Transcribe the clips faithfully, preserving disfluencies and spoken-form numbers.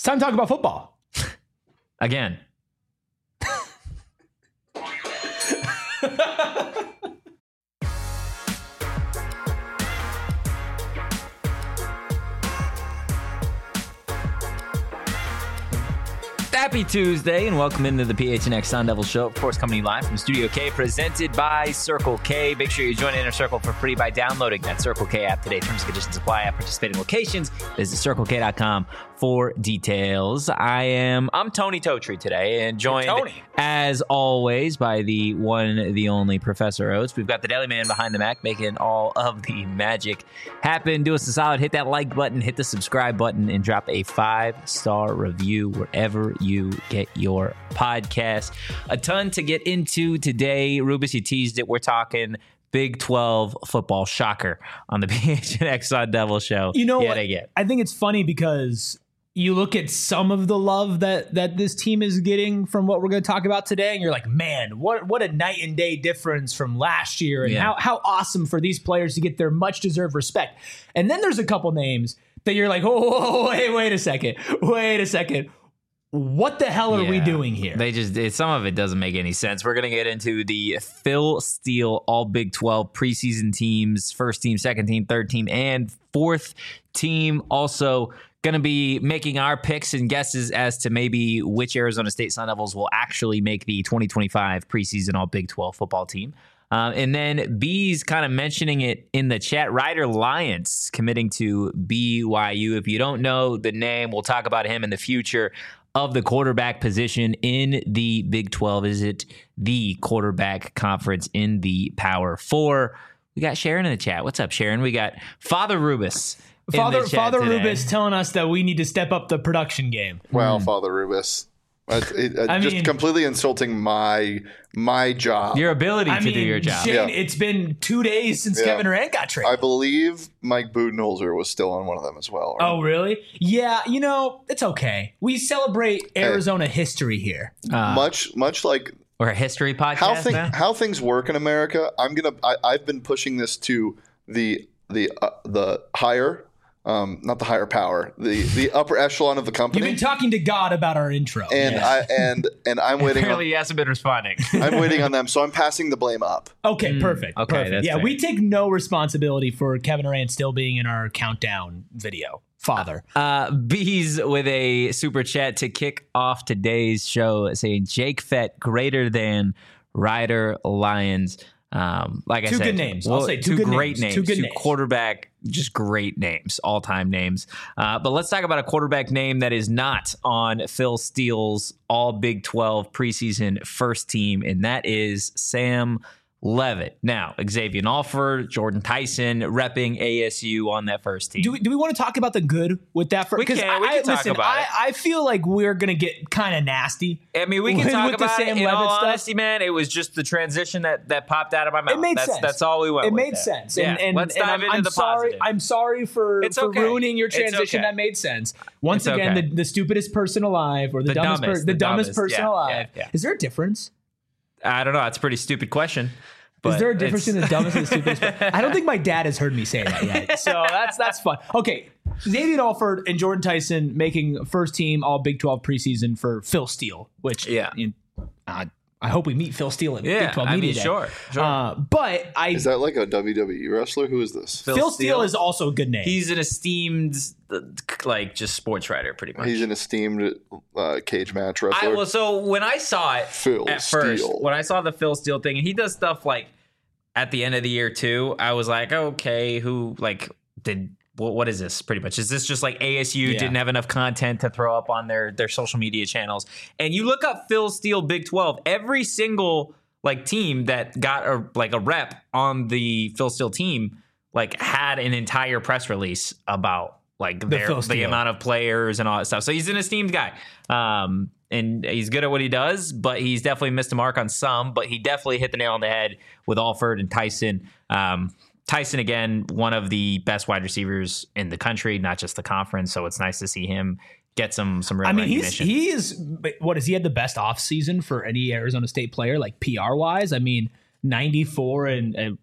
time to talk about football. Again. Happy Tuesday and welcome into the P H N X Sun Devil Show. Of course, coming live from Studio K, presented by Circle K. Make sure you join Inner Circle for free by downloading that Circle K app today. Terms and conditions apply at participating locations. Visit circle k dot com for details. I am I'm Tony Totri today, and joined as always by the one, the only Professor Oates. We've got the Daily Man behind the Mac making all of the magic happen. Do us a solid, hit that like button, hit the subscribe button, and drop a five-star review wherever you get your podcast. A ton to get into today. Rubus, you teased it. We're talking Big twelve football, shocker, on the P H N X Sun Devil Show. You know yet what? Again. I think it's funny because you look at some of the love that that this team is getting from what we're going to talk about today, and you're like, man, what what a night and day difference from last year, and Yeah. how how awesome for these players to get their much deserved respect. And then there's a couple names that you're like, oh, wait, wait a second, wait a second. What the hell are we Yeah. doing here? They just it, some of it doesn't make any sense. We're gonna get into the Phil Steele All Big twelve preseason teams, first team, second team, third team, and fourth team. Also gonna be making our picks and guesses as to maybe which Arizona State Sun Devils will actually make the twenty twenty-five preseason All Big twelve football team. Uh, and then B's kind of mentioning it in the chat. Ryder Lyons committing to B Y U. If you don't know the name, we'll talk about him in the future. Of the quarterback position in the Big twelve. Is it the quarterback conference in the Power Four? We got Sharon in the chat. What's up, Sharon? We got Father Rubus. in Father the chat Father today. Rubus telling us that we need to step up the production game. Wow, Father Rubus. It, it, it, I just mean- completely insulting my my job. Your ability I to mean, do your job. Shane, Yeah. it's been two days since Yeah. Kevin Durant got traded. I believe Mike Budenholzer was still on one of them as well. right? Oh, really? Yeah, you know, it's okay. We celebrate Arizona history here. Uh, much much like We're a history podcast how thing, now. how things work in America. I'm gonna. I, I've been pushing this to the the uh, the higher, um, not the higher power, the the upper echelon of the You've company. been talking to God about our intro. and Yeah. I and and I'm waiting. Apparently, On, he hasn't been responding. I'm waiting on them, so I'm passing the blame up. okay, perfect. okay, perfect. that's Yeah, fair. we take no responsibility for Kevin Durant still being in our countdown video. Father. Uh, B's with a super chat to kick off today's show, saying Jake Fett greater than Ryder Lyons. Um, like I Two said, good names. I'll well, say two two good great names. names, Two good names. quarterback, just great names, all time names. Uh, but let's talk about a quarterback name that is not on Phil Steele's All Big twelve preseason first team, and that is Sam Levitt. Now, Xavier Alford, Jordan Tyson, repping A S U on that first team. Do we, do we want to talk about the good with that? For, We 'cause can. We I, can talk listen, about I, it. I feel like we're going to get kind of nasty. I mean, we can with- talk with the about it. Sam In Levitt all stuff. honesty, man, it was just the transition that, that popped out of my mouth. It made that's, sense. That's all we went It with made there. sense. Yeah. And, and, Let's and dive I'm, into I'm the sorry. positive. I'm sorry for, It's for okay. ruining your It's transition. okay. That made sense. Once It's again, okay. the, the stupidest person alive, or the, The dumbest, dumbest, per, the, the dumbest, dumbest. person Yeah, alive. yeah, yeah. Is there a difference? I don't know. It's a pretty stupid question. Is but there a difference it's- in the dumbest and the stupidest? I don't think my dad has heard me say that yet. So that's that's fun. Okay, Xavier Alford and Jordan Tyson making first team All Big twelve preseason for Phil Steele, which Yeah. you know, uh, I hope we meet Phil Steele at Yeah, Big twelve I Media mean, Day. sure, sure. Uh, but I Is that like a W W E wrestler? Who is this? Phil Phil, Steele Steele is also a good name. He's an esteemed, uh, like, just sports writer, pretty much. He's an esteemed uh, cage match I, wrestler. well, so when I saw it Phil at first, Steele. when I saw the Phil Steele thing, and he does stuff like at the end of the year too, I was like, okay, who like did what? What is this? Pretty much, is this just like A S U Yeah. didn't have enough content to throw up on their their social media channels? And you look up Phil Steele Big twelve, every single like team that got a like a rep on the Phil Steele team like had an entire press release about like their Phil the Steele. amount of players and all that stuff. So he's an esteemed guy. Um, and he's good at what he does, but he's definitely missed a mark on some, but he definitely hit the nail on the head with Alford and Tyson. Um, Tyson, again, one of the best wide receivers in the country, not just the conference. So it's nice to see him get some, some real I mean, he's recognition. he is. What is he had the best off season for any Arizona State player, like P R wise? I mean, ninety-four and. and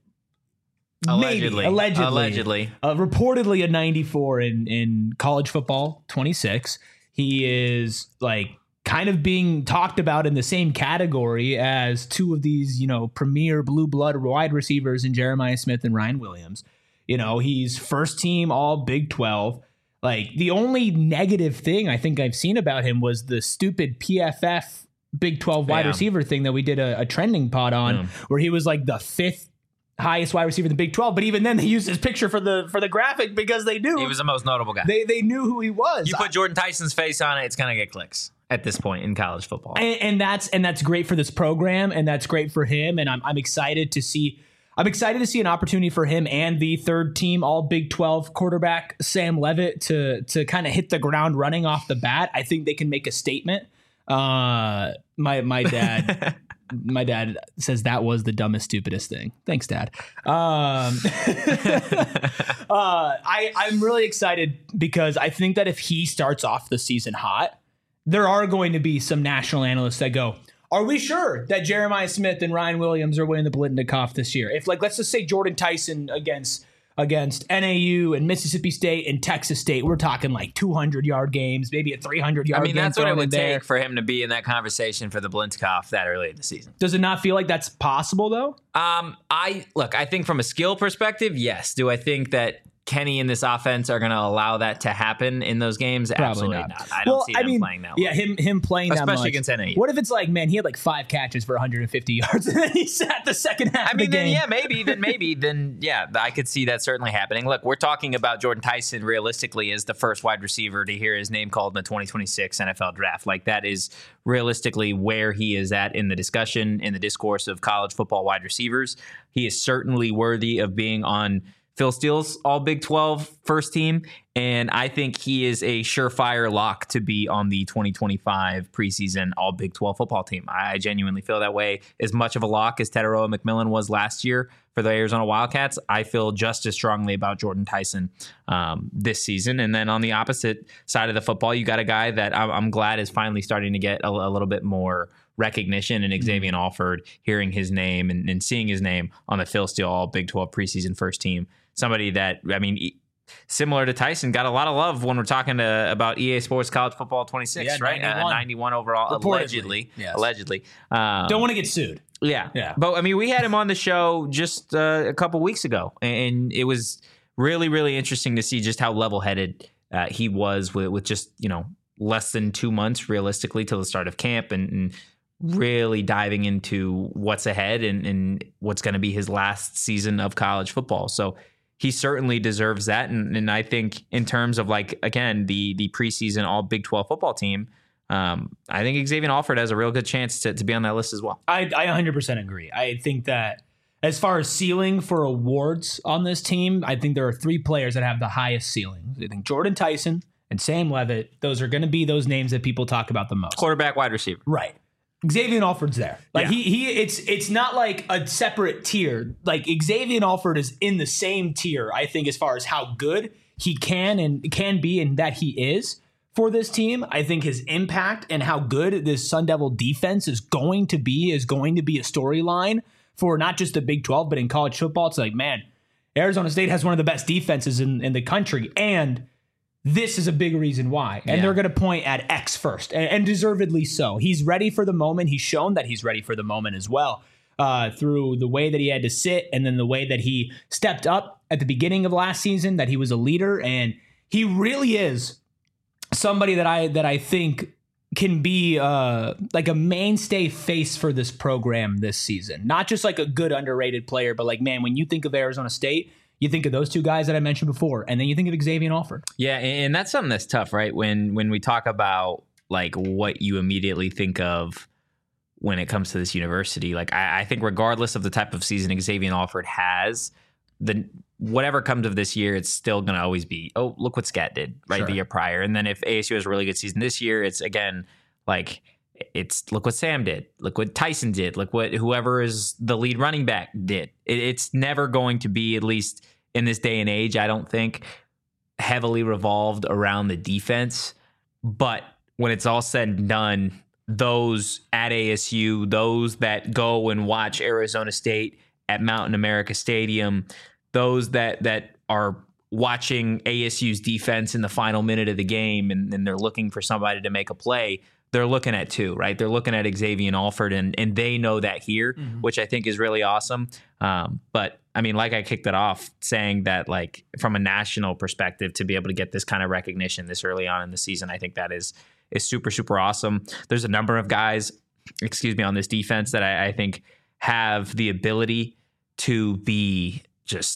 Allegedly. Maybe, allegedly, Allegedly. uh, reportedly a ninety-four in, in college football, twenty-six. He is like kind of being talked about in the same category as two of these, you know, premier blue blood wide receivers in Jeremiah Smith and Ryan Williams. You know, he's first team all Big twelve. Like the only negative thing I think I've seen about him was the stupid P F F Big twelve wide yeah. receiver thing that we did a, a trending pod on, yeah. where he was like the fifth highest wide receiver in the Big twelve. But even then they used his picture for the for the graphic because they knew he was the most notable guy. They they knew who he was. You put Jordan Tyson's face on it, it's gonna get clicks at this point in college football. And, and that's and that's great for this program, and that's great for him. And I'm I'm excited to see I'm excited to see an opportunity for him and the third team all Big twelve quarterback Sam Leavitt to to kind of hit the ground running off the bat. I think they can make a statement. Uh, my my dad. My dad says that was the dumbest, stupidest thing. Thanks, Dad. Um, uh, I, I'm really excited because I think that if he starts off the season hot, there are going to be some national analysts that go, are we sure that Jeremiah Smith and Ryan Williams are winning the Blitnikoff this year? If, like, let's just say Jordan Tyson against against N A U and Mississippi State and Texas State, we're talking like two hundred yard games, maybe a three hundred yard game. I mean, mean, that's what it would there. take for him to be in that conversation for the Blitnikoff that early in the season. Does it not feel like that's possible, though? Um, I look, I think from a skill perspective, yes. Do I think that Kenny and this offense are going to allow that to happen in those games? Probably Absolutely not. not. I don't well, see I him mean, playing that yeah, well. him him playing Especially that much. against N A U. What if it's like, man, he had like five catches for one hundred fifty yards and then he sat the second half I mean, of the then game? yeah, maybe, then maybe, then yeah, I could see that certainly happening. Look, we're talking about Jordan Tyson realistically as the first wide receiver to hear his name called in the twenty twenty-six N F L draft. Like that is realistically where he is at in the discussion, in the discourse of college football wide receivers. He is certainly worthy of being on Phil Steele's all Big twelve first team, and I think he is a surefire lock to be on the twenty twenty-five preseason all Big twelve football team. I genuinely feel that way. As much of a lock as Teteroa McMillan was last year for the Arizona Wildcats, I feel just as strongly about Jordan Tyson um, this season. And then on the opposite side of the football, you got a guy that I'm, I'm glad is finally starting to get a, a little bit more recognition, and Xavier Alford, hearing his name and, and seeing his name on the Phil Steele all Big twelve preseason first team. Somebody that, I mean, similar to Tyson, got a lot of love when we're talking to, about E A Sports College Football twenty-six, yeah, right? ninety-one. Uh, ninety-one overall, Reportedly, allegedly. yes. Allegedly. Um, Don't want to get sued. Yeah. Yeah. But, I mean, we had him on the show just uh, a couple weeks ago, and it was really, really interesting to see just how level-headed uh, he was with, with just, you know, less than two months realistically till the start of camp, and, and really diving into what's ahead and, and what's going to be his last season of college football. So he certainly deserves that. And, and I think in terms of, like, again, the the preseason all Big twelve football team, um, I think Xavier Alford has a real good chance to, to be on that list as well. I, I one hundred percent agree. I think that as far as ceiling for awards on this team, I think there are three players that have the highest ceiling. I think Jordan Tyson and Sam Leavitt, those are going to be those names that people talk about the most. Quarterback, wide receiver. Right. Xavier Alford's there. Like Yeah. he he it's it's not like a separate tier. Like Xavier Alford is in the same tier, I think, as far as how good he can and can be and that he is for this team. I think his impact and how good this Sun Devil defense is going to be is going to be a storyline for not just the Big twelve, but in college football. It's like, man, Arizona State has one of the best defenses in, in the country, and this is a big reason why. And Yeah. they're going to point at X first, and, and deservedly so. He's ready for the moment. He's shown that he's ready for the moment as well, uh, through the way that he had to sit and then the way that he stepped up at the beginning of last season, that he was a leader. And he really is somebody that I that I think can be uh, like a mainstay face for this program this season. Not just like a good underrated player, but like, man, when you think of Arizona State, you think of those two guys that I mentioned before, and then you think of Xavier Alford. Yeah, and that's something that's tough, right? When when we talk about like what you immediately think of when it comes to this university, like I, I think regardless of the type of season Xavier Alford has, the whatever comes of this year, it's still going to always be, oh, look what Scat did right Sure. the year prior. And then if A S U has a really good season this year, it's again like it's look what Sam did, look what Tyson did, look what whoever is the lead running back did. It, it's never going to be, at least in this day and age, I don't think, heavily revolved around the defense. But when it's all said and done, those at A S U, those that go and watch Arizona State at Mountain America Stadium, those that that are watching A S U's defense in the final minute of the game and, and they're looking for somebody to make a play, they're looking at two, right? They're looking at Xavier Alford, and and they know that here, mm-hmm. which I think is really awesome. Um, but I mean, like I kicked it off saying that, like, from a national perspective, to be able to get this kind of recognition this early on in the season, I think that is is super, super awesome. There's a number of guys, excuse me, on this defense that I, I think have the ability to be just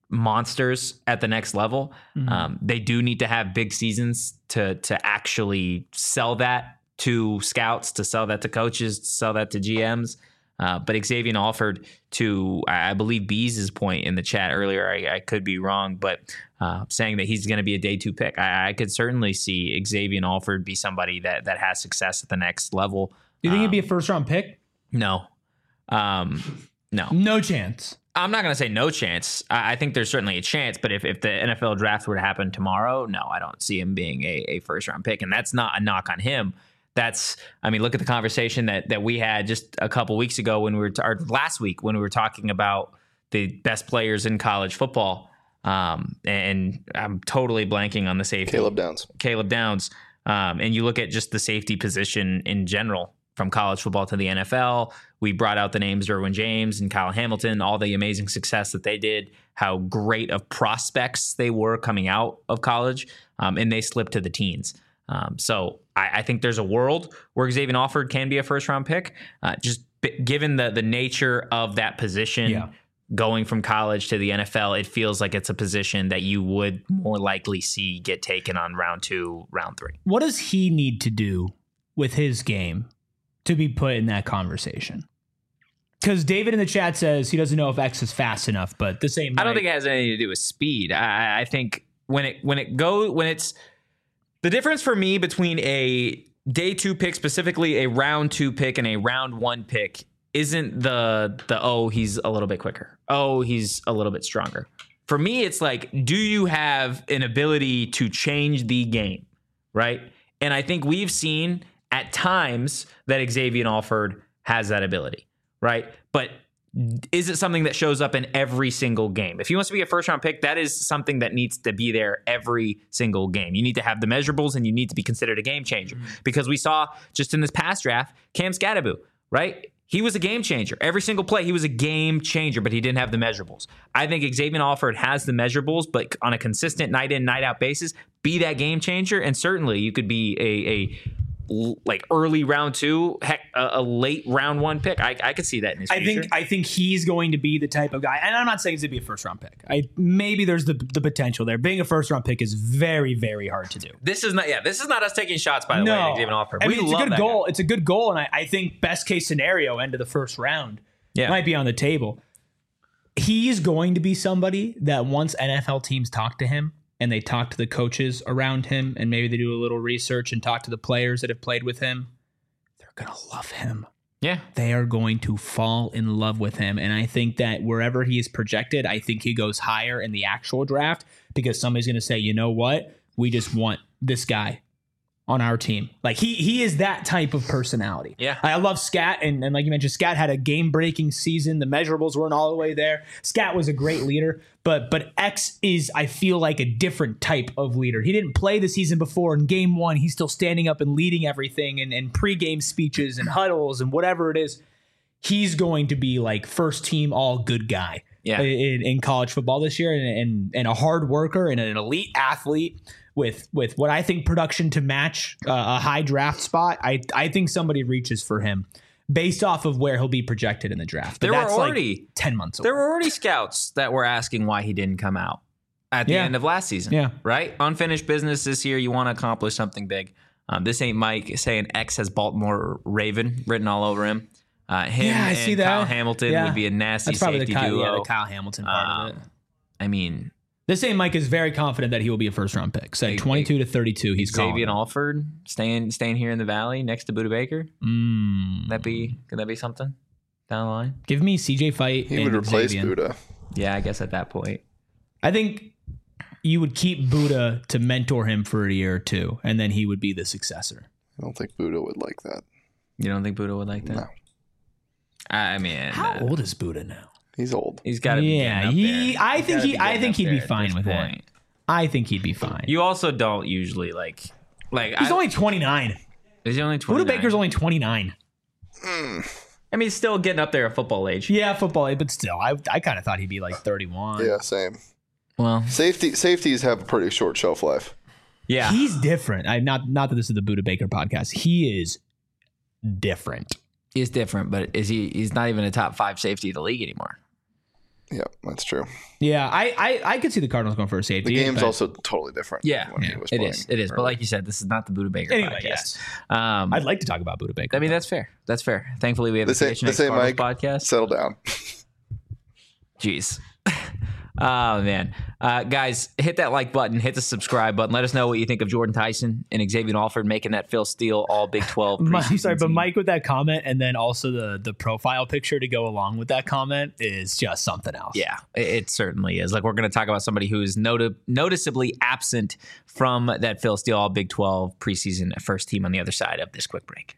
monsters at the next level. Mm-hmm. Um, they do need to have big seasons to to actually sell that to scouts, to sell that to coaches, to sell that to G Ms. Uh, but Xavier Alford, to I believe Bees' point in the chat earlier, I, I could be wrong, but uh, saying that he's going to be a day two pick, I, I could certainly see Xavier Alford be somebody that that has success at the next level. Do you think um, he'd be a first round pick? No, um, no, no chance. I'm not going to say no chance. I, I think there's certainly a chance, but if, if the N F L draft were to happen tomorrow, no, I don't see him being a, a first round pick, and that's not a knock on him. That's, I mean, look at the conversation that that we had just a couple weeks ago when we were, t- or last week when we were talking about the best players in college football. Um, and I'm totally blanking on the safety. Caleb Downs. Caleb Downs. Um, and you look at just the safety position in general from college football to the N F L. We brought out the names Derwin James and Kyle Hamilton, all the amazing success that they did, how great of prospects they were coming out of college, um, and they slipped to the teens. Um, so I, I think there's a world where Xavier Alford can be a first round pick, uh, just b- given the the nature of that position. Yeah. Going from college to the N F L, it feels like it's a position that you would more likely see get taken on round two, round three. What does he need to do with his game to be put in that conversation? Because David in the chat says he doesn't know if X is fast enough, but the same. I don't think it has anything to do with speed. I, I think when it when it go when it's the difference for me between a day two pick, specifically a round two pick, and a round one pick isn't the the oh he's a little bit quicker, oh he's a little bit stronger. For me, it's like, do you have an ability to change the game, right? And I think we've seen at times that Xavier Alford has that ability, right? But is it something that shows up in every single game? If he wants to be a first round pick, that is something that needs to be there every single game. You need to have the measurables, and you need to be considered a game changer, mm-hmm. because we saw just in this past draft, Cam Scadaboo, right? He was a game changer. Every single play, he was a game changer, but he didn't have the measurables. I think Xavier Alford has the measurables, but on a consistent night in, night out basis, be that game changer. And certainly you could be a, a like early round two, heck, a, a late round one pick. I, I could see that in his I future. think I think he's going to be the type of guy, and I'm not saying he's going to be a first round pick. I maybe there's the the potential there. Being a first round pick is very very hard to do. This is not yeah. This is not us taking shots, by the no. way. Xavier Alford. I We mean, it's love a good that goal. guy. It's a good goal, and I, I think best case scenario, end of the first round, yeah. might be on the table. He's going to be somebody that once N F L teams talk to him, and they talk to the coaches around him, and maybe they do a little research and talk to the players that have played with him, going to love him. Yeah. They are going to fall in love with him. And I think that wherever he is projected, I think he goes higher in the actual draft, because somebody's going to say, you know what? We just want this guy on our team. Like he he is that type of personality. Yeah. I love Scat. And, and like you mentioned, Scat had a game breaking season. The measurables weren't all the way there. Scat was a great leader, but but X is, I feel like, a different type of leader. He didn't play the season before. In game one, he's still standing up and leading everything, and, and pregame speeches and huddles and whatever it is. He's going to be like first team all good guy. Yeah. in, in college football this year, and, and and a hard worker and an elite athlete with with what I think production to match uh, a high draft spot. I I think somebody reaches for him based off of where he'll be projected in the draft. But there that's were already like ten months away. There were already scouts that were asking why he didn't come out at the yeah. end of last season. Yeah. Right? Unfinished business this year. You want to accomplish something big. Um, this ain't Mike saying X has Baltimore Raven written all over him. Uh, him yeah, I and see that. Kyle Hamilton yeah. would be a nasty That's probably safety the Kyle, duo. yeah, the Kyle Hamilton part um, of it. I mean, this same Mike is very confident that he will be a first round pick. So twenty-two to thirty-two, he's calling. Xavier Alford staying staying here in the Valley next to Budda Baker. Mm. That be could that be something down the line? Give me C J Fight. He and would replace Xavier. Budda. Yeah, I guess at that point. I think you would keep Budda to mentor him for a year or two, and then he would be the successor. I don't think Budda would like that. You don't think Budda would like that? No. I mean, how uh, old is Budda now? He's old. He's got to yeah, be. he. There. I He's think gotta he. be I getting think up he'd be there at fine this with point. it. I think he'd be fine. You also don't usually like like He's I, only twenty-nine. Is he only twenty-nine? Buda Baker's only twenty-nine. Mm. I mean, he's still getting up there at football age. Yeah, football, but still, I I kind of thought he'd be like thirty-one. Yeah, same. Well, Safety safeties have a pretty short shelf life. yeah. He's different. I not not that this is the Buda Baker podcast. He is different. He's different, but is he he's not even a top five safety of the league anymore. Yeah, that's true. Yeah, I I, I could see the Cardinals going for a safety. The game's but- also totally different. Yeah, when he yeah, was It playing is. It is. But early. like you said, this is not the Buda Baker Anyway, podcast. yes. Um, I'd like to talk about Buda Baker. I mean, that's fair. That's fair. Thankfully, we have This the ain't- P H N X this ain't Cardinals Mike. podcast. Settle down. Jeez. Oh, man. Uh, guys, hit that like button. Hit the subscribe button. Let us know what you think of Jordan Tyson and Xavier Alford making that Phil Steele all Big twelve. Mike, preseason sorry, but team. Mike with that comment and then also the the profile picture to go along with that comment is just something else. Yeah, it, it certainly is. Like, we're going to talk about somebody who is noti- noticeably absent from that Phil Steele all Big twelve preseason first team on the other side of this quick break.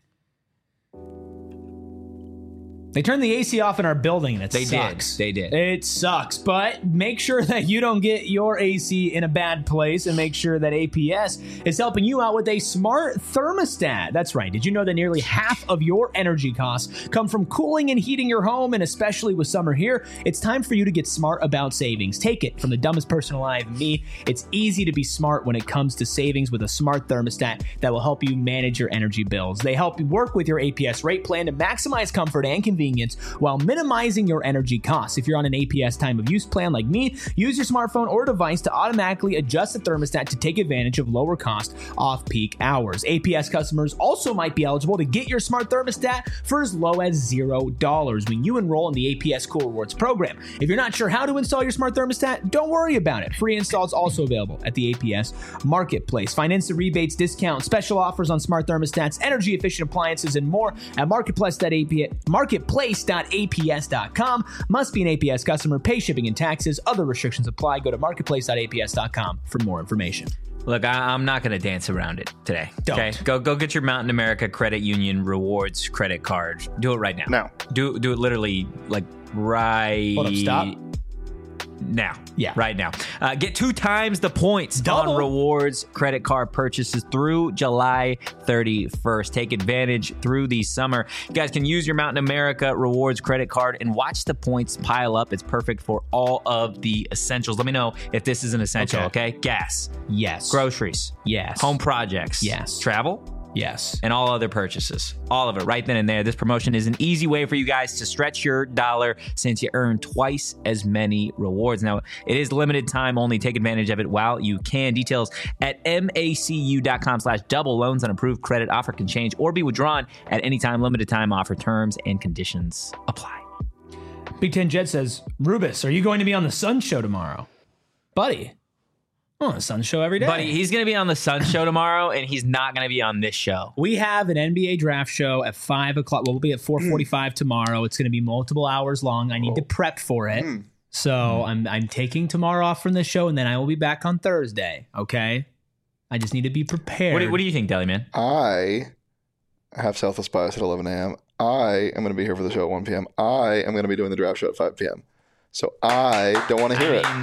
They turned the A C off in our building and it They sucks. did. They did. It sucks, but make sure that you don't get your A C in a bad place and make sure that A P S is helping you out with a smart thermostat. That's right. Did you know that nearly half of your energy costs come from cooling and heating your home? And especially with summer here, it's time for you to get smart about savings. Take it from the dumbest person alive, me. It's easy to be smart when it comes to savings with a smart thermostat that will help you manage your energy bills. They help you work with your A P S rate plan to maximize comfort and convenience while minimizing your energy costs. If you're on an A P S time of use plan like me, use your smartphone or device to automatically adjust the thermostat to take advantage of lower cost off-peak hours. A P S customers also might be eligible to get your smart thermostat for as low as zero dollars when you enroll in the A P S Cool Rewards program. If you're not sure how to install your smart thermostat, don't worry about it. Free install is also available at the A P S Marketplace. Find instant rebates, discounts, special offers on smart thermostats, energy efficient appliances, and more at marketplace dot a p s marketplace dot a p s dot com. Must be an A P S customer. Pay shipping and taxes. Other restrictions apply. Go to marketplace dot a p s dot com for more information. Look, I, I'm not going to dance around it today. Don't. Okay, go go get your Mountain America Credit Union Rewards credit card. Do it right now. Now. Do do it literally like right. Hold up, stop. Now. Yeah. Right now. Uh, get two times the points Double. on rewards credit card purchases through July thirty-first. Take advantage through the summer. You guys can use your Mountain America Rewards credit card and watch the points pile up. It's perfect for all of the essentials. Let me know if this is an essential, okay? Okay. Gas, Yes. groceries, Yes. home projects, Yes. travel, Yes. and all other purchases. All of it right then and there. This promotion is an easy way for you guys to stretch your dollar since you earn twice as many rewards. Now, it is limited time only. Take advantage of it while you can. Details at macu.com slash double loans. On approved credit offer can change or be withdrawn at any time. Limited time offer. Terms and conditions apply. Big Ten Jet says, Rubus, are you going to be on the Sun Show tomorrow? Buddy. I'm on the Sun Show every day. Buddy, he's going to be on the Sun Show tomorrow, and he's not going to be on this show. We have an N B A draft show at five o'clock. Well, we'll be at four forty-five tomorrow. It's going to be multiple hours long. I need to prep for it. Mm. So I'm I'm taking tomorrow off from the show, and then I will be back on Thursday. Okay? I just need to be prepared. What do, what do you think, Deli Man? I have Southwest Bias at eleven a.m. I am going to be here for the show at one p.m. I am going to be doing the draft show at five p.m. So I don't want to hear I mean, it.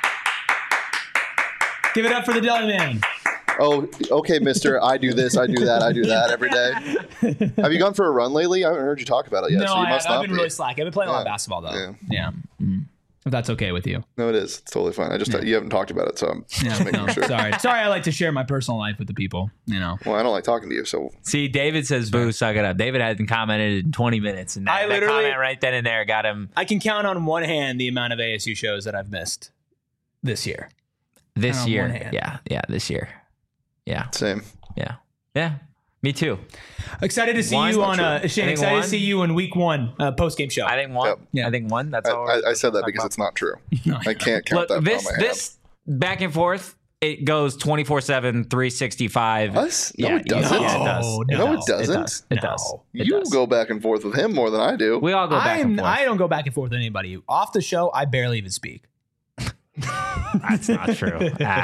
Give it up for the Deli Man. Oh, okay, mister. I do this, I do that, I do that every day. Have you gone for a run lately? I haven't heard you talk about it yet. no, so you I, must I've not been be. really slack. I've been playing a lot of Yeah. basketball, though. Yeah. Yeah. Mm. If that's okay with you. No, it is. It's totally fine. I just you haven't talked about it, so I'm Yeah, just making no, sure. sorry. Sorry, I like to share my personal life with the people, you know. Well, I don't like talking to you, so See, David says, boo, suck it up. David hasn't commented in twenty minutes, and that, I that literally- comment right then and there got him I can count on one hand the amount of A S U shows that I've missed this year. this on year. one hand. Yeah, yeah, this year. Yeah, same. yeah, yeah. Me too. Excited to see One? you on Not uh, true. Shane. I think Excited one. to see you in week one uh, post game show. I think one. Yep. Yeah. I think one. That's I, all. I, I said that because it's not true. I can't count Look, that this on my this back and forth. It goes twenty-four seven, three sixty-five. Us? No, yeah, it doesn't. Yeah, it does. No, It no, does. it doesn't. It does. It No. does. It You does. go back and forth with him more than I do. We all go back I'm, and forth. I don't go back and forth with anybody. Off the show, I barely even speak. That's not true at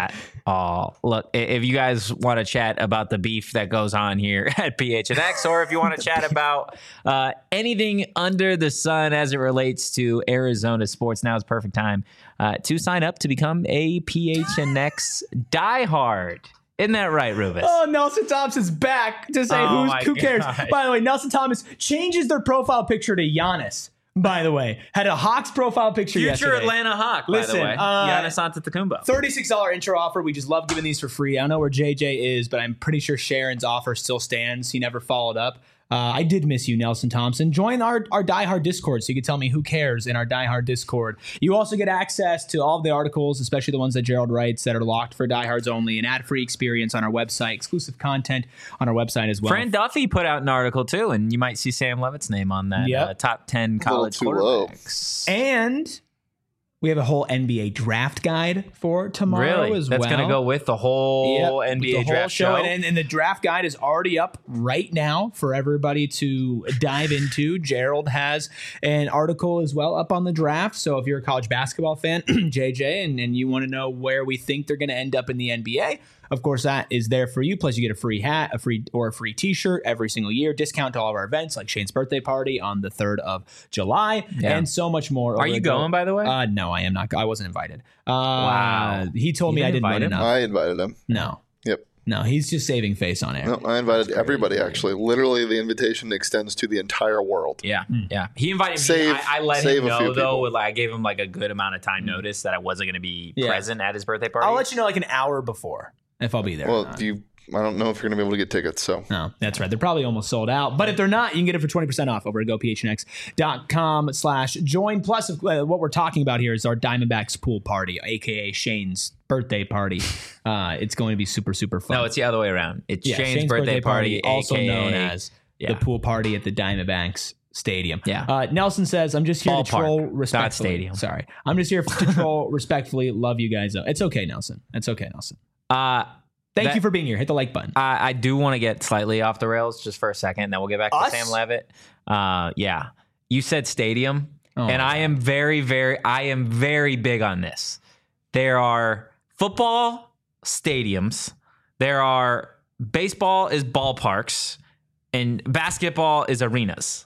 Oh, look, i- if you guys want to chat about the beef that goes on here at P H N X, or if you want to chat about uh, anything under the sun as it relates to Arizona sports, now is the perfect time uh, to sign up to become a P H N X diehard. Isn't that right, Rufus? Oh, Nelson Thompson's back to say Oh who's, my who cares. God. By the way, Nelson Thomas changes their profile picture to Giannis. By the way, had a Hawks profile picture Future yesterday. Atlanta Hawk, by Listen, the way. uh, Giannis Antetokounmpo. thirty-six dollars intro offer. We just love giving these for free. I don't know where J J is, but I'm pretty sure Sharon's offer still stands. He never followed up. Uh, I did miss you, Nelson Thompson. Join our, our Die Hard Discord so you can tell me who cares in our Die Hard Discord. You also get access to all of the articles, especially the ones that Gerald writes that are locked for diehards only, an ad-free experience on our website, exclusive content on our website as well. Fran Duffy put out an article, too, and you might see Sam Levitt's name on that Yep. uh, top ten college too low. quarterbacks. And we have a whole N B A draft guide for tomorrow Really? as That's well. going to go with the whole Yep, N B A the whole draft show. show. And, and the draft guide is already up right now for everybody to dive into. Gerald has an article as well up on the draft. So if you're a college basketball fan, J J, and, and you want to know where we think they're going to end up in the N B A, of course, that is there for you. Plus, you get a free hat, a free or a free T-shirt every single year. Discount to all of our events, like Shane's birthday party on the third of July, Yeah. and so much more. Are over you at going, by the way? Uh, no, I am not. I wasn't invited. Uh, Wow. He told You me I didn't didn't invite win him? enough. I invited him. No. Yep. No, he's just saving face on air. No, I invited everybody, actually. Literally, the invitation extends to the entire world. Yeah, yeah. He invited Save- me. I, I let save him a few know, though. people. With, like, I gave him like a good amount of time notice that I wasn't going to be Yeah. present at his birthday party. I'll let you know like an hour before if I'll be there. or Well, not. you, I don't know if you're going to be able to get tickets, so. No, that's right. They're probably almost sold out. But if they're not, you can get it for twenty percent off over at gophnx.com slash join. Plus, uh, what we're talking about here is our Diamondbacks pool party, a k a. Shane's birthday party. Uh, it's going to be super, super fun. No, it's the other way around. It's Yeah, Shane's, birthday, party, also A K A known as yeah. the pool party at the Diamondbacks Stadium. Yeah. Uh, Nelson says, I'm just here Ballpark, to troll not respectfully. stadium. Sorry. I'm just here to troll respectfully. Love you guys, though. It's okay, Nelson. It's okay, Nelson. Uh, Thank That- you for being here. Hit the like button. I, I do want to get slightly off the rails just for a second. Then we'll get back to Us? Sam Levitt. Uh, yeah, you said stadium, Oh, and I am very, very, I am very big on this. There are football stadiums. There are baseball is ballparks, and basketball is arenas.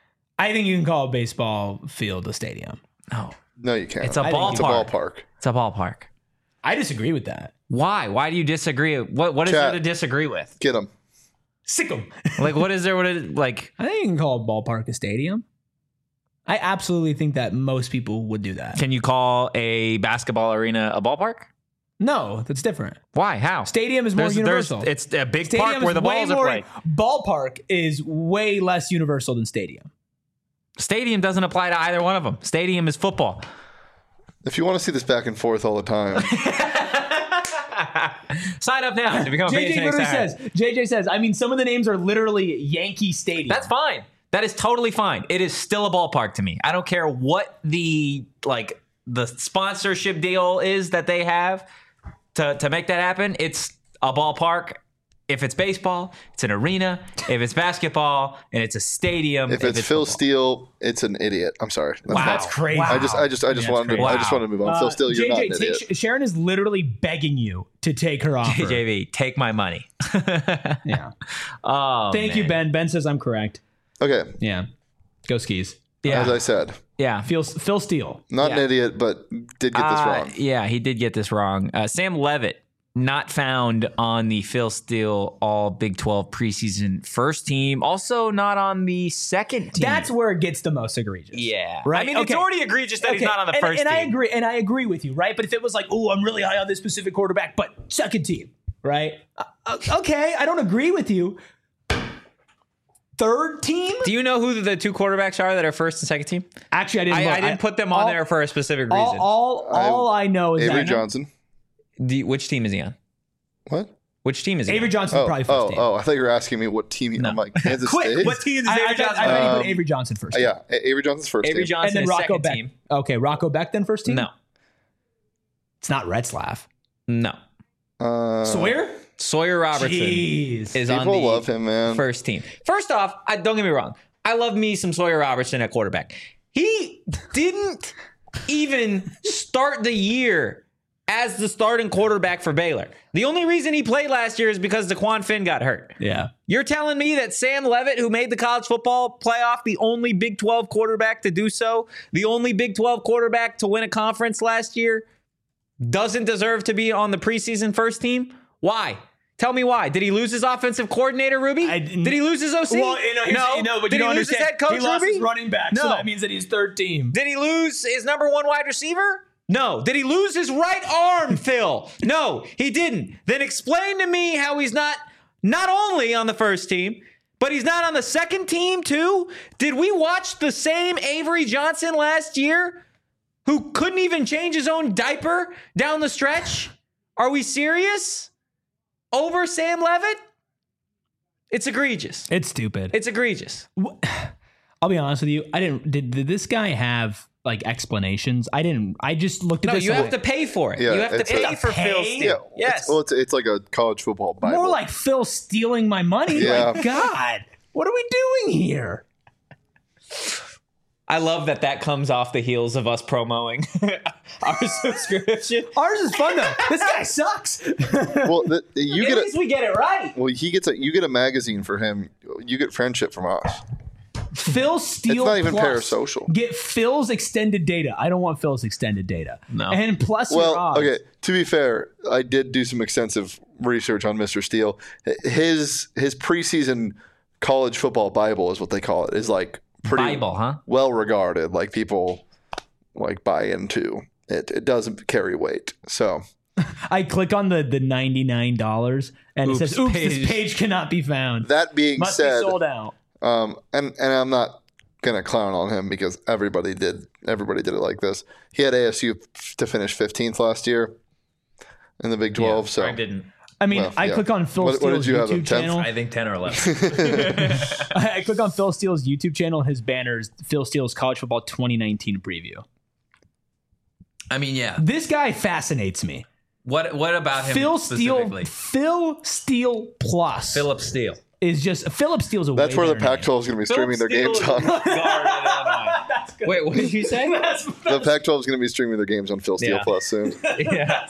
I think you can call a baseball field a stadium. No, No, you can't. it's a I think ballpark. It's a ballpark. It's a ballpark. I disagree with that. Why? Why do you disagree? What What is Chat. there to disagree with? Get them. Sick 'em. Like, what is there? What is like? I think you can call a ballpark a stadium. I absolutely think that most people would do that. Can you call a basketball arena a ballpark? No, that's different. Why? How? Stadium is more There's- universal. there's- it's a big Stadium park where is the way balls are more- played. Ballpark is way less universal than stadium. Stadium doesn't apply to either one of them. Stadium is football. If you want to see this back and forth all the time, Sign up now to become a J J P H N X literally diehard. says, J J says, I mean, some of the names are literally Yankee Stadium. That's fine. That is totally fine. It is still a ballpark to me. I don't care what the like the sponsorship deal is that they have to to make that happen. It's a ballpark. If it's baseball, it's an arena. If it's basketball, and it's a stadium. if it's Phil football. Steele, it's an idiot. I'm sorry. That's Wow. not- That's crazy. I just, I just, I just Yeah, wanted that's to, I crazy. just wanted to move on. Uh, Phil Steele, you're J J, not an take, idiot. Sharon is literally begging you to take her offer. J J V, take my money. Yeah. Oh, Thank you, man. Ben. Ben says I'm correct. Okay, Yeah. Go skis. Yeah, as I said, yeah. Phil, Phil Steele. not Yeah. an idiot, but did get this Uh, wrong. Yeah, he did get this wrong. Uh, Sam Levitt, not found on the Phil Steele All Big twelve preseason first team. Also not on the second team. That's where it gets the most egregious. yeah. Right? I mean, Okay. it's already egregious that he's Okay, not on the and, first and team. I agree, and I agree with you, right? But if it was like, oh, I'm really high on this specific quarterback, but second team, right? Uh, okay, I don't agree with you. Third team? Do you know who the two quarterbacks are that are first and second team? Actually, I didn't. I, look. I didn't put them on all- there for a specific All, reason. all, all I know is Avery that Johnson. The- which team is he on? What? Which team is he Avery on? Johnson is Oh, probably first oh, team. oh! I thought you were asking me what team. I'm like Kansas Quick, State. what team is I, Avery I, thought, Johnson I thought on? you put Um, Avery Johnson first. Uh, team. yeah, A- Avery Johnson's first Avery team. Johnson and then is Rocco second Beck. team. Okay, Rocco Beck then first team. No, It's not Retzlaff. no. Uh, Sawyer. Sawyer Robertson Jeez. is on People the love him, man. first team. First off, I, don't get me wrong. I love me some Sawyer Robertson at quarterback. He didn't even start the year as the starting quarterback for Baylor. The only reason he played last year is because DeQuan Finn got hurt. Yeah. You're telling me that Sam Leavitt, who made the college football playoff, the only Big twelve quarterback to do so, the only Big twelve quarterback to win a conference last year, doesn't deserve to be on the preseason first team? Why? Tell me why. Did he lose his offensive coordinator, Ruby? I, Did he lose his O C? Well, you know, no. You know, but Did you he don't lose his understand. head coach, He lost Ruby? his running back, No. so that means that he's third team. Did he lose his number one wide receiver? No. Did he lose his right arm, Phil? No, he didn't. Then explain to me how he's not not only on the first team, but he's not on the second team too? Did we watch the same Avery Johnson last year who couldn't even change his own diaper down the stretch? Are we serious? Over Sam Leavitt? It's egregious. It's stupid. It's egregious. I'll be honest with you. I didn't. Did, did this guy have like explanations? I didn't. I just looked at No, this. you and have to went, pay for it. Yeah, you have to it's pay a- for Pay? Phil Yeah, Steele. Yes. It's, well, it's, it's like a college football Bible. more like Phil stealing my money. Yeah. Like, God, what are we doing here? I love that that comes off the heels of us promoting our subscription. Ours is fun though. This guy sucks. Well, the, you At get least a, we get it right. well, he gets a you get a magazine for him. You get friendship from us. Phil Steele. It's not even plus. parasocial. Get Phil's extended data. I don't want Phil's extended data. No. And plus your Well, odds. okay. To be fair, I did do some extensive research on Mister Steele. His his preseason college football Bible is what they call it. Is like pretty Bible, huh? well regarded. Like people like buy into it. It doesn't carry weight. So I click on the the ninety nine dollars and Oops, it says, "Oops, page. this page cannot be found. that being Must said, be sold out." Um, and and I'm not gonna clown on him because everybody did everybody did it like this. He had A S U f- to finish fifteenth last year in the Big twelve. so I didn't. I mean, Well, I yeah. click on Phil What- what did Steele's you have, a YouTube tenth? channel. I think ten or eleven. I click on Phil Steele's YouTube channel and his banners, Phil Steele's college football twenty nineteen preview. I mean, yeah. This guy fascinates me. What What about him Phil Steele, specifically? Phil Steele Plus Philip Steele. is just Philip Steele's a that's way where the better name. Pac twelve is going to be streaming their games on. That's good. Wait, what did you say? The Pac twelve is going to be streaming their games on Phil Steele Yeah. Plus soon. yeah.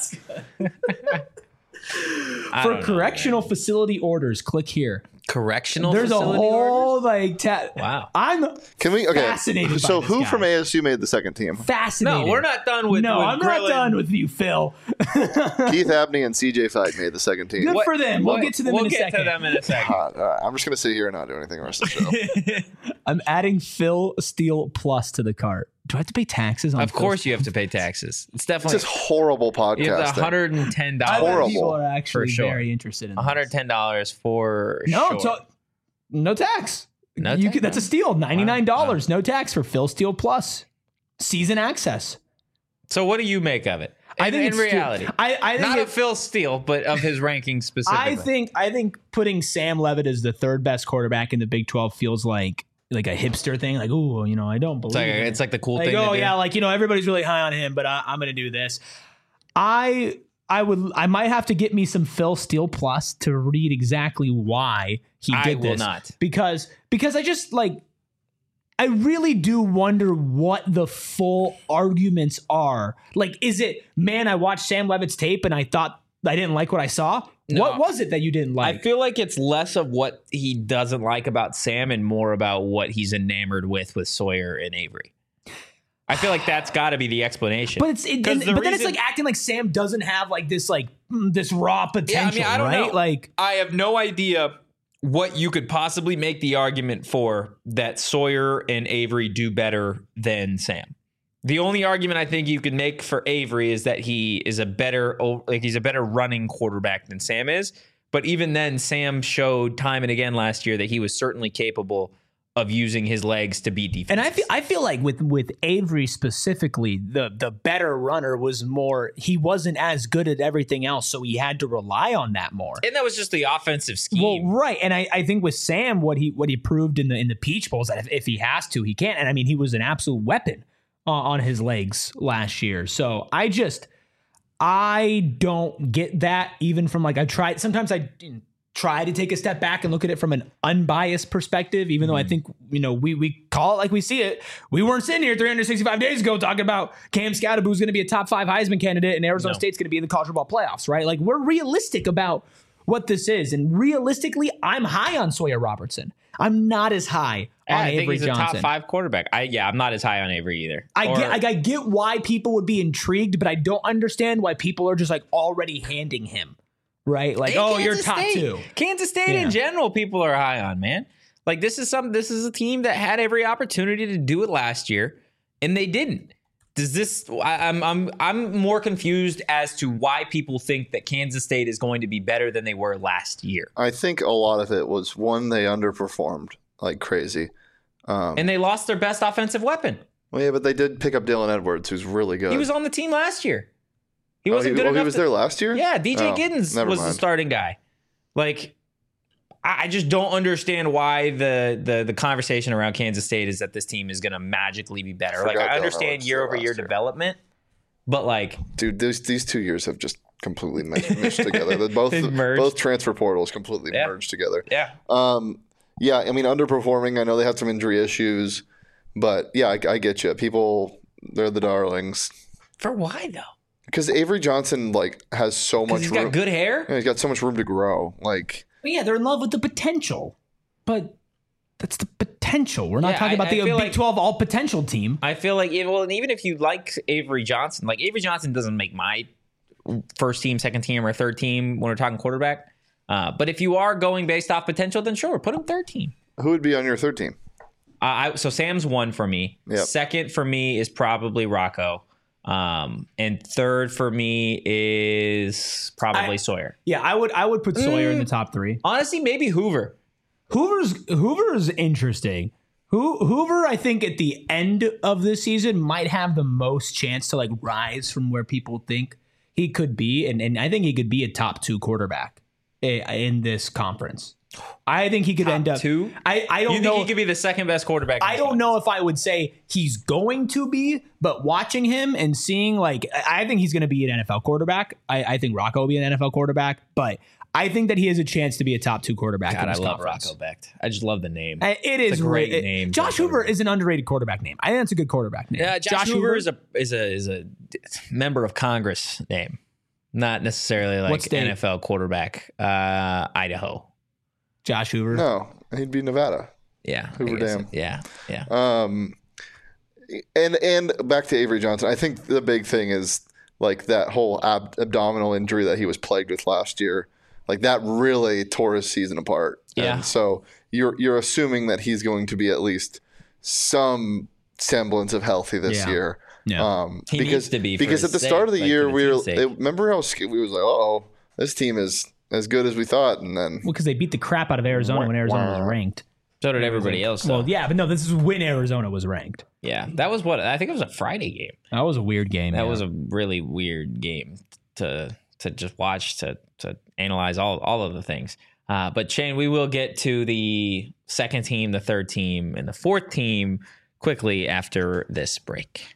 I For don't know, correctional facility orders, click here. Correctional There's a facility whole orders? like ta- Wow. I'm Can we? Okay. Fascinated by So this who guy. from A S U made the second team? fascinated. No, we're not done with No, with I'm grilling. not done with you, Phil. Keith Abney and C J Fight made the second team. Good What- for them. We'll what- get to them we'll in a get second. to them in a second. Uh, all right, I'm just going to sit here and not do anything the rest of the show. I'm adding Phil Steele Plus to the cart. Do I have to pay taxes on Of Phil course Steele? you have to pay taxes. It's It's definitely just horrible you have podcasting. one hundred ten I bet dollars. horrible. people are actually For sure. very interested in one hundred this. ten dollars for No, sure. to- no tax. No you tax? could, that's a steal. ninety-nine dollars, no tax for Phil Steele Plus. Season access. So what do you make of it? I In- think in it's stu- reality, I, I think not it- of Phil Steele, but of his ranking specifically. I think I think putting Sam Leavitt as the third best quarterback in the Big twelve feels like like a hipster thing. Like, oh, you know, I don't believe it's like, it. it's like the cool Like, thing. oh to do. yeah, like, you know, everybody's really high on him, but I, I'm going to do this. I I would I might have to get me some Phil Steele Plus to read exactly why he I did will this. not. Because because I just like I really do wonder what the full arguments are. Like, is it, man, I watched Sam Leavitt's tape and I thought I didn't like what I saw? No. What was it that you didn't like? I feel like it's less of what he doesn't like about Sam and more about what he's enamored with with Sawyer and Avery. I feel like that's got to be the explanation. But it's it, 'Cause and- the but then it's reason- like acting like Sam doesn't have like this like mm, this raw potential, I don't right? know. Like I have no idea what you could possibly make the argument for that Sawyer and Avery do better than Sam. The only argument I think you could make for Avery is that he is a better like he's a better running quarterback than Sam is. But even then, Sam showed time and again last year that he was certainly capable of using his legs to beat defense. And I feel I feel like with with Avery specifically, the the better runner was more. He wasn't as good at everything else, so he had to rely on that more. and that was just the offensive Well, scheme. right, and I, I think with Sam, what he what he proved in the in the Peach Bowls that if, if he has to, he can. And I mean, he was an absolute weapon uh, on his legs last year. So I just I don't get that even from like I tried. Sometimes I try to take a step back and look at it from an unbiased perspective, even mm. though I think, you know, we we call it like we see it. We weren't sitting here three hundred sixty-five days ago talking about Cam Scatterboot is going to be a top five Heisman candidate and Arizona no. State's going to be in the college football playoffs, right? Like, we're realistic about what this is. And realistically, I'm high on Sawyer Robertson. I'm not as high yeah, on I Avery think he's Johnson. a top five quarterback. I yeah, I'm not as high on Avery either. I or, get like, I get why people would be intrigued, but I don't understand why people are just like already handing him. Right? Like, oh, Kansas you're top State. two. Kansas State yeah. in general, people are high on, man. Like, this is some this is a team that had every opportunity to do it last year, and they didn't. Does this I, I'm I'm I'm more confused as to why people think that Kansas State is going to be better than they were last year. I think a lot of it was, one, they underperformed like crazy. Um, and they lost their best offensive weapon. Well, yeah, but they did pick up Dylan Edwards, who's really good. He was on the team last year. He wasn't oh, he, good oh, enough. He was to, there last year? Yeah, D J oh, Giddens was mind. the starting guy. Like, I, I just don't understand why the, the the conversation around Kansas State is that this team is going to magically be better. Like, I understand year over year development, but like, dude, these these two years have just completely meshed, meshed together. They're both both transfer portals completely yeah. merged together. Yeah. Um. Yeah. I mean, underperforming. I know they had some injury issues, but yeah, I, I get you. People, they're the darlings. For why though? Because Avery Johnson like has so much. He's room. got good hair. Yeah, he's got so much room to grow. Like, well, yeah, they're in love with the potential, but that's the potential. We're not yeah, talking I, about the I Big like, twelve all potential team. I feel like well, and even if you like Avery Johnson, like Avery Johnson doesn't make my first team, second team, or third team when we're talking quarterback. Uh, but if you are going based off potential, then sure, put him third team. Who would be on your third team? Uh, I, so Sam's one for me. Yep. Second for me is probably Rocco. Um, and third for me is probably I, Sawyer. Yeah, I would I would put Sawyer mm, in the top three. Honestly, maybe Hoover. Hoover's Hoover's interesting. Who Hoover, I think at the end of this season might have the most chance to like rise from where people think he could be, and and I think he could be a top two quarterback in this conference. I think he could top end up two. I, I don't you know. think he could be the second best quarterback? I don't know if I would say he's going to be, but watching him and seeing like I think he's going to be an N F L quarterback. I, I think Rocco will be an N F L quarterback, but I think that he has a chance to be a top two quarterback. God, in this I love conference. Rocco Becht. I just love the name. It is it's a great it, name. Josh Hoover is an underrated quarterback name. I think that's a good quarterback name. Yeah, Josh, Josh Hoover, Hoover is a is a is a member of Congress name, not necessarily like N F L quarterback. Uh, Idaho. Josh Hoover. No, he'd be Nevada. Yeah, Hoover Dam. Yeah, yeah. Um, and and back to Avery Johnson. I think the big thing is like that whole ab- abdominal injury that he was plagued with last year. Like that really tore his season apart. Yeah. And so you're you're assuming that he's going to be at least some semblance of healthy this yeah. year. Yeah. Um, he because needs to be because at the sake, start of the like year the we were sake. it, remember how we was like, oh, this team is as good as we thought, and then well, because they beat the crap out of Arizona Wah, when Arizona wah. was ranked. So did everybody else. Though. Well, yeah, but no, this is when Arizona was ranked. Yeah, that was what I think it was a Friday game. That was a weird game. That yeah. was a really weird game to to just watch to to analyze all all of the things. Uh, but Shane, we will get to the second team, the third team, and the fourth team quickly after this break.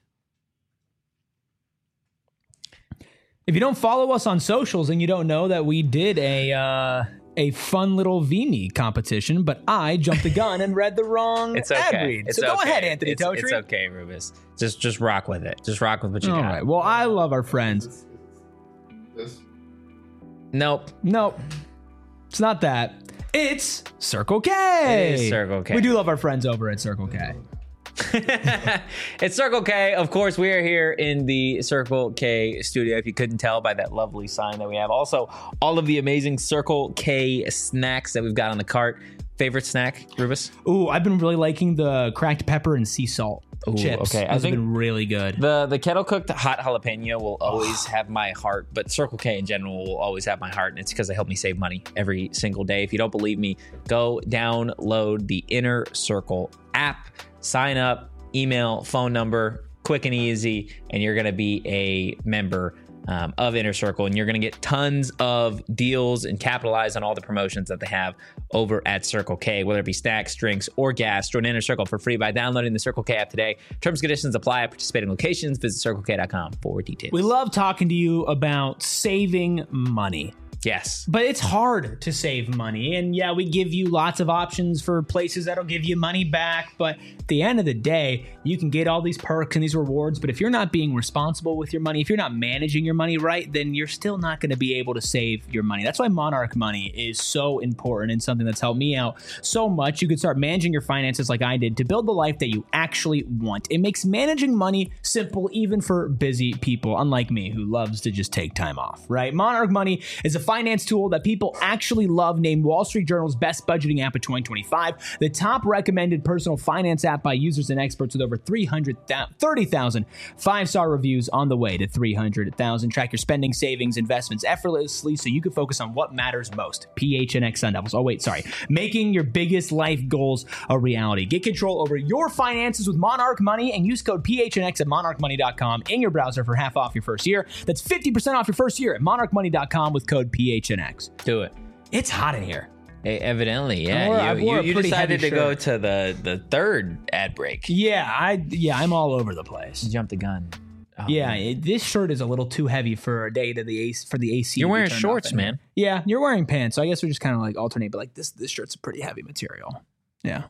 If you don't follow us on socials and you don't know that we did a uh, a fun little V M E competition, but I jumped the gun and read the wrong it's okay. ad read. It's so go okay. ahead, Anthony it's, Totri. It's okay, Rubus. Just just rock with it. Just rock with what you All got. right. Well, I love our friends. this Nope. Nope. It's not that. It's Circle K. It is Circle K. We do love our friends over at Circle K. It's Circle K. Of course, we are here in the Circle K studio, if you couldn't tell by that lovely sign that we have. Also, all of the amazing Circle K snacks that we've got on the cart. Favorite snack, Rubus? Ooh, I've been really liking the cracked pepper and sea salt Ooh, chips. okay. I Those have think been really good. The the kettle cooked hot jalapeno will always have my heart, but Circle K in general will always have my heart, and it's because they help me save money every single day. If you don't believe me, go download the Inner Circle app, sign up, email, phone number, quick and easy, and you're going to be a member um, of Inner Circle, and you're going to get tons of deals and capitalize on all the promotions that they have over at Circle K, whether it be snacks, drinks, or gas. Join Inner Circle for free by downloading the Circle K app today. Terms and conditions apply at participating locations. Visit circle k dot com for details. We love talking to you about saving money. Yes. But it's hard to save money. And yeah, we give you lots of options for places that'll give you money back. But at the end of the day, you can get all these perks and these rewards. But if you're not being responsible with your money, if you're not managing your money right, then you're still not going to be able to save your money. That's why Monarch Money is so important and something that's helped me out so much. You can start managing your finances like I did to build the life that you actually want. It makes managing money simple, even for busy people, unlike me, who loves to just take time off, right? Monarch Money is a finance tool that people actually love, named Wall Street Journal's best budgeting app of twenty twenty-five, the top recommended personal finance app by users and experts with over three hundred thirty thousand five-star reviews, on the way to three hundred thousand. Track your spending, savings, investments effortlessly so you can focus on what matters most. P H N X Sun Devils. Oh, wait, sorry. Making your biggest life goals a reality. Get control over your finances with Monarch Money and use code P H N X at monarch money dot com in your browser for half off your first year. That's fifty percent off your first year at monarch money dot com with code P H N X. Do it. It's hot in here. Hey, evidently, I wore- I yeah. You, wore you, a you pretty decided to heavy go shirt. to the, the third ad break. Yeah, I yeah, I'm all over the place. You jumped the gun. Oh, Yeah, man. it, this shirt is a little too heavy for a day to the A C, for the A C. You're to be wearing turned shorts, off in man. here. Yeah, you're wearing pants, so I guess we just kind of like alternate. But like this, this shirt's a pretty heavy material. Yeah.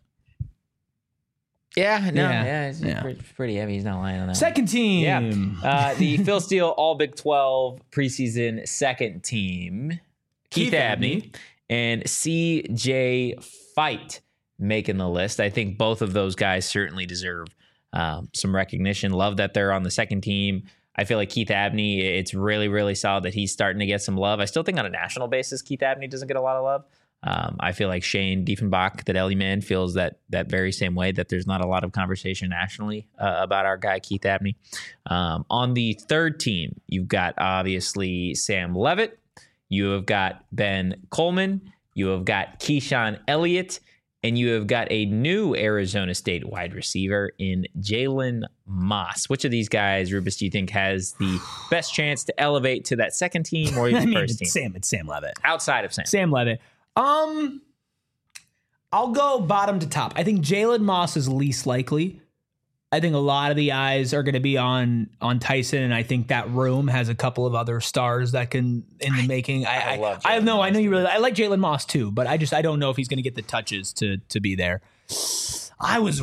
Yeah, no, Yeah, yeah, it's yeah. Pretty, pretty heavy. He's not lying on that. Second team. Yeah. Uh, the Phil Steele All Big twelve preseason second team, Keith, Keith Abney, Abney. and C J Fight making the list. I think both of those guys certainly deserve um, some recognition. Love that they're on the second team. I feel like Keith Abney, it's really, really solid that he's starting to get some love. I still think on a national basis, Keith Abney doesn't get a lot of love. Um, I feel like Shane Diefenbach, the Deli Man, feels that that very same way, that there's not a lot of conversation nationally uh, about our guy, Keith Abney. Um, on the third team, you've got obviously Sam Levitt. You have got Ben Coleman. You have got Keyshawn Elliott. And you have got a new Arizona State wide receiver in Jalen Moss. Which of these guys, Rubus, do you think has the best chance to elevate to that second team or I even mean, first it's team? Sam. It's Sam Levitt. Outside of Sam. Sam Levitt. Um, I'll go bottom to top. I think Jalen Moss is least likely. I think a lot of the eyes are going to be on on Tyson, and I think that room has a couple of other stars that can in the making. I I I, love I Jalen know I Moss, know you really. I like Jalen Moss too, but I just I don't know if he's going to get the touches to to be there. I was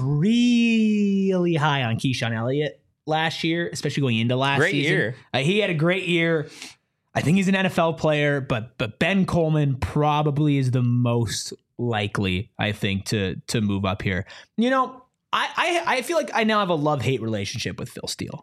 really high on Keyshawn Elliott last year, especially going into last Great season. year. Uh, he had a great year. I think he's an N F L player, but but Ben Coleman probably is the most likely, I think, to to move up here. You know, I I, I feel like I now have a love-hate relationship with Phil Steele.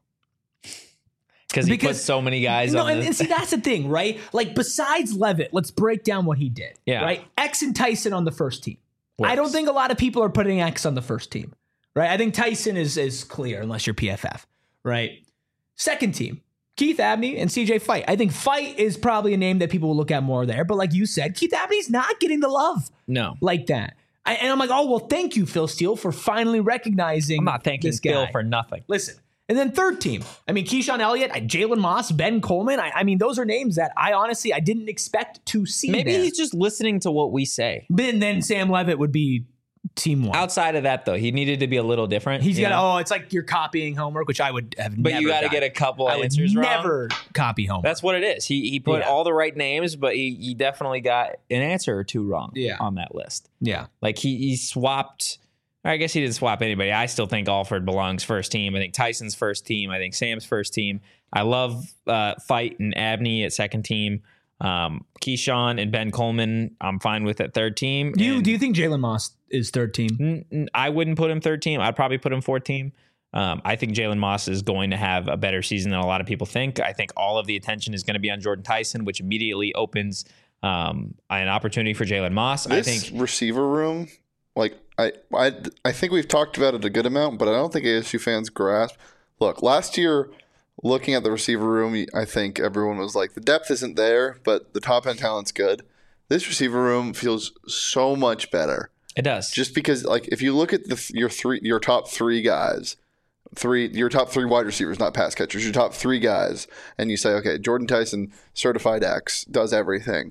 Because he Because- put so many guys No, on and, the, and see, that's the thing, right? Like, besides Levitt, let's break down what he did. Yeah. Right? X and Tyson on the first team. Works. I don't think a lot of people are putting X on the first team, right? I think Tyson is is clear unless you're P F F, right? Second team, Keith Abney and C J Fight. I think Fight is probably a name that people will look at more there, but like you said, Keith Abney's not getting the love No. like that. I, and I'm like, oh, well, thank you, Phil Steele, for finally recognizing I'm not thanking this guy. Phil for nothing. Listen, and then third team. I mean, Keyshawn Elliott, Jalen Moss, Ben Coleman. I, I mean, those are names that I honestly I didn't expect to see. Maybe there. he's just listening to what we say. But then Sam Levitt would be team one. Outside of that, though, he needed to be a little different. He's you got know? oh, it's like you're copying homework, which I would have. But never you got to done. get a couple I would answers wrong. never copy homework. That's what it is. He he put Yeah. all the right names, but he, he definitely got an answer or two wrong Yeah. on that list. yeah. Like he, he swapped. I guess he didn't swap anybody. I still think Alford belongs first team. I think Tyson's first team. I think Sam's first team. I love uh, Fight and Abney at second team. Um, Keyshawn and Ben Coleman, I'm fine with at third team. Do you And do you think Jalen Moss is third team? n- n- I wouldn't put him third team. I'd probably put him fourth team. Um, I think Jalen Moss is going to have a better season than a lot of people think. I think all of the attention is going to be on Jordan Tyson, which immediately opens um, an opportunity for Jalen Moss. This I think receiver room, like I, I, I think we've talked about it a good amount, but I don't think A S U fans grasp. Look, last year, looking at the receiver room, I think everyone was like, the depth isn't there, but the top end talent's good. This receiver room feels so much better, it does. just because, like, if you look at the your three, your top three guys, three, your top three wide receivers, not pass catchers, your top three guys, and you say, okay, Jordan Tyson, certified X, does everything.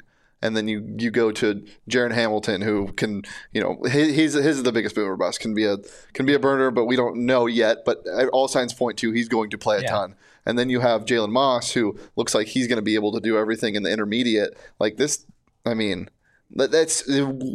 and then you you go to Jaron Hamilton, who can, you know, he, he's his is the biggest boomer bust, can be a can be a burner, but we don't know yet. But all signs point to he's going to play a Yeah. ton. And then you have Jalen Moss, who looks like he's going to be able to do everything in the intermediate. Like this, I mean, that- that's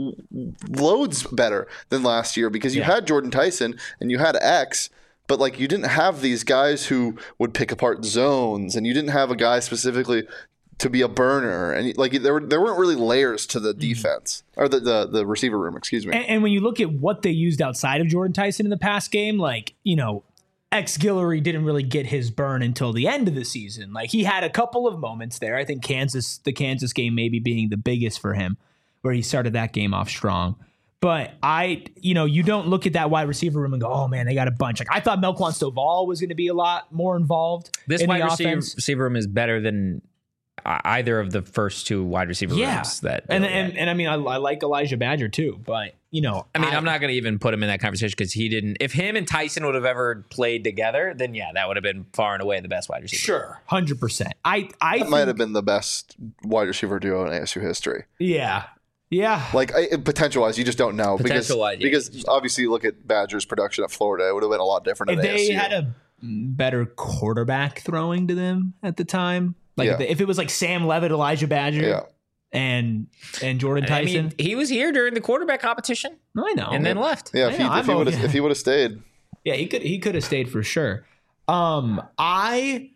loads better than last year because you Yeah. had Jordan Tyson and you had X, but like you didn't have these guys who would pick apart zones, and you didn't have a guy specifically to be a burner, and like there were there weren't really layers to the defense or the the, the receiver room. Excuse me. And, and when you look at what they used outside of Jordan Tyson in the past game, like, you know, X Guillory didn't really get his burn until the end of the season. Like he had a couple of moments there. I think Kansas, the Kansas game maybe being the biggest for him, where he started that game off strong. But I, you know, you don't look at that wide receiver room and go, oh man, they got a bunch. Like I thought Melquan Stovall was going to be a lot more involved. This in wide the receiver, offense. receiver room is better than uh, either of the first two wide receiver Yeah, rooms. That and, and and I mean I, I like Elijah Badger too, but you know, I mean, I, I'm not going to even put him in that conversation because he didn't. If him and Tyson would have ever played together, then yeah, that would have been far and away the best wide receiver. sure, hundred percent. I I That think, might have been the best wide receiver duo in A S U history. yeah, yeah. Like I, potential wise, you just don't know because Potential-wise, yeah. because obviously you look at Badger's production at Florida, it would have been a lot different. If at they A S U. had a better quarterback throwing to them at the time, like Yeah. if, they- if it was like Sam Levitt, Elijah Badger, Yeah. and and Jordan I Tyson, mean, he was here during the quarterback competition no, I know, and then left. Yeah, I if he, know, if I'm he would have okay. if he would have stayed. yeah, he could he could have stayed for sure. Um, I.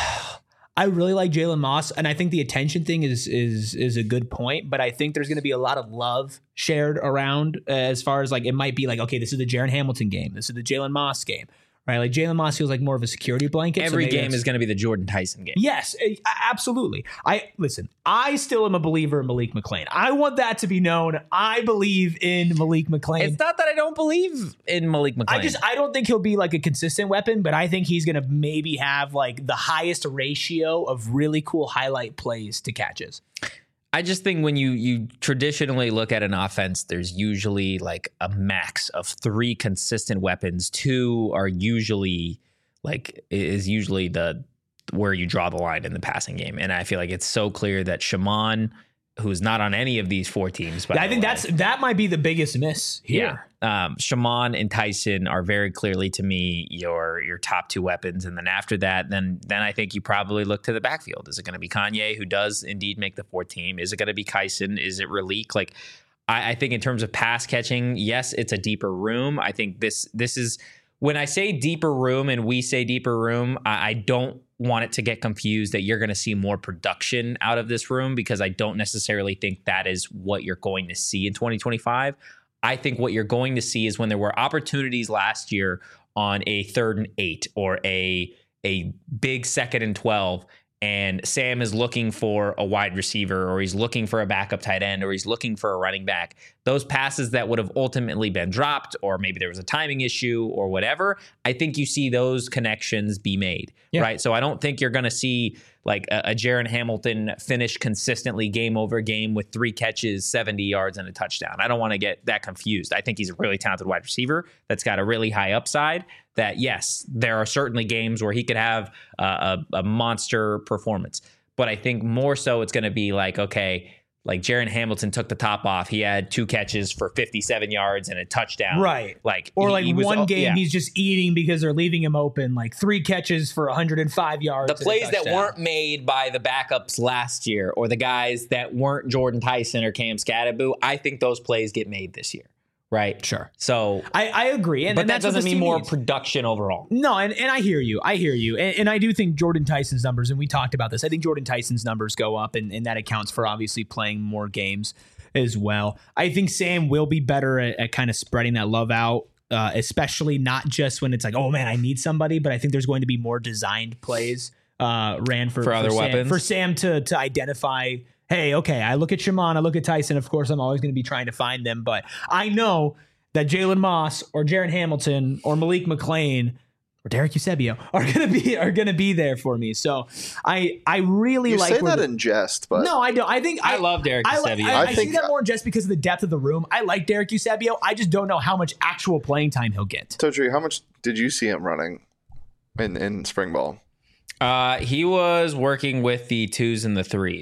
I really like Jalen Moss, and I think the attention thing is is is a good point. But I think there's going to be a lot of love shared around uh, as far as like it might be like, okay, this is the Jaron Hamilton game, this is the Jalen Moss game, right? Like Jalen Moss feels like more of a security blanket. so Every maybe game that's- is going to be the Jordan Tyson game. Yes, a- absolutely. I listen. I still am a believer in Malik McClain. I want that to be known. I believe in Malik McClain. It's not that I don't believe in Malik McClain. I just I don't think he'll be like a consistent weapon, but I think he's gonna maybe have like the highest ratio of really cool highlight plays to catches. I just think when you you traditionally look at an offense, there's usually like a max of three consistent weapons. Two are usually like is usually the where you draw the line in the passing game. And I feel like it's so clear that Shaman, who's not on any of these four teams, but I think that's that might be the biggest miss here. yeah. Um, Shaman and Tyson are very clearly to me your your top two weapons, and then after that, then then I think you probably look to the backfield. Is it going to be Kanye, who does indeed make the fourth team? Is it going to be Kyson? Is it Raleek? Like, I, I think in terms of pass catching, yes, it's a deeper room. I think this this is when I say deeper room and we say deeper room, I, I don't want it to get confused that you're going to see more production out of this room, because I don't necessarily think that is what you're going to see in twenty twenty-five. I think what you're going to see is when there were opportunities last year on a third and eight or a a big second and twelve, and Sam is looking for a wide receiver, or he's looking for a backup tight end, or he's looking for a running back, those passes that would have ultimately been dropped, or maybe there was a timing issue or whatever, I think you see those connections be made, Yeah. right? So I don't think you're going to see like a, a Jaron Hamilton finish consistently game over game with three catches, seventy yards, and a touchdown. I don't want to get that confused. I think he's a really talented wide receiver that's got a really high upside. That, yes, there are certainly games where he could have uh, a, a monster performance. But I think more so it's going to be like, okay, like Jaron Hamilton took the top off. He had two catches for fifty-seven yards and a touchdown. Right. Like, Or he- like he was- one game yeah. he's just eating because they're leaving him open, like three catches for one hundred five yards. The and a plays that touchdown. weren't made by the backups last year, or the guys that weren't Jordan Tyson or Cam Scatteraboo, I think those plays get made this year, right? Sure. So, I, I agree. And, but and that that's what doesn't this mean team more needs. production overall. No, and, and I hear you. I hear you. And, and I do think Jordan Tyson's numbers, and we talked about this, I think Jordan Tyson's numbers go up, and, and that accounts for obviously playing more games as well. I think Sam will be better at, at kind of spreading that love out, uh, especially not just when it's like, oh man, I need somebody, but I think there's going to be more designed plays uh, ran for, For other Sam, weapons? for Sam to to identify, hey, okay, I look at Shaman, I look at Tyson. Of course, I'm always going to be trying to find them, but I know that Jalen Moss or Jaron Hamilton or Malik McClain or Derek Eusebio are gonna be are gonna be there for me. So I I really You like say where that the- in jest, but no, I don't. I think I love Derek I, li- Eusebio. I, I, I see think- that more just because of the depth of the room. I like Derek Eusebio. I just don't know how much actual playing time he'll get. Totri, how much did you see him running in, in spring ball? Uh, he was working with the twos and the threes.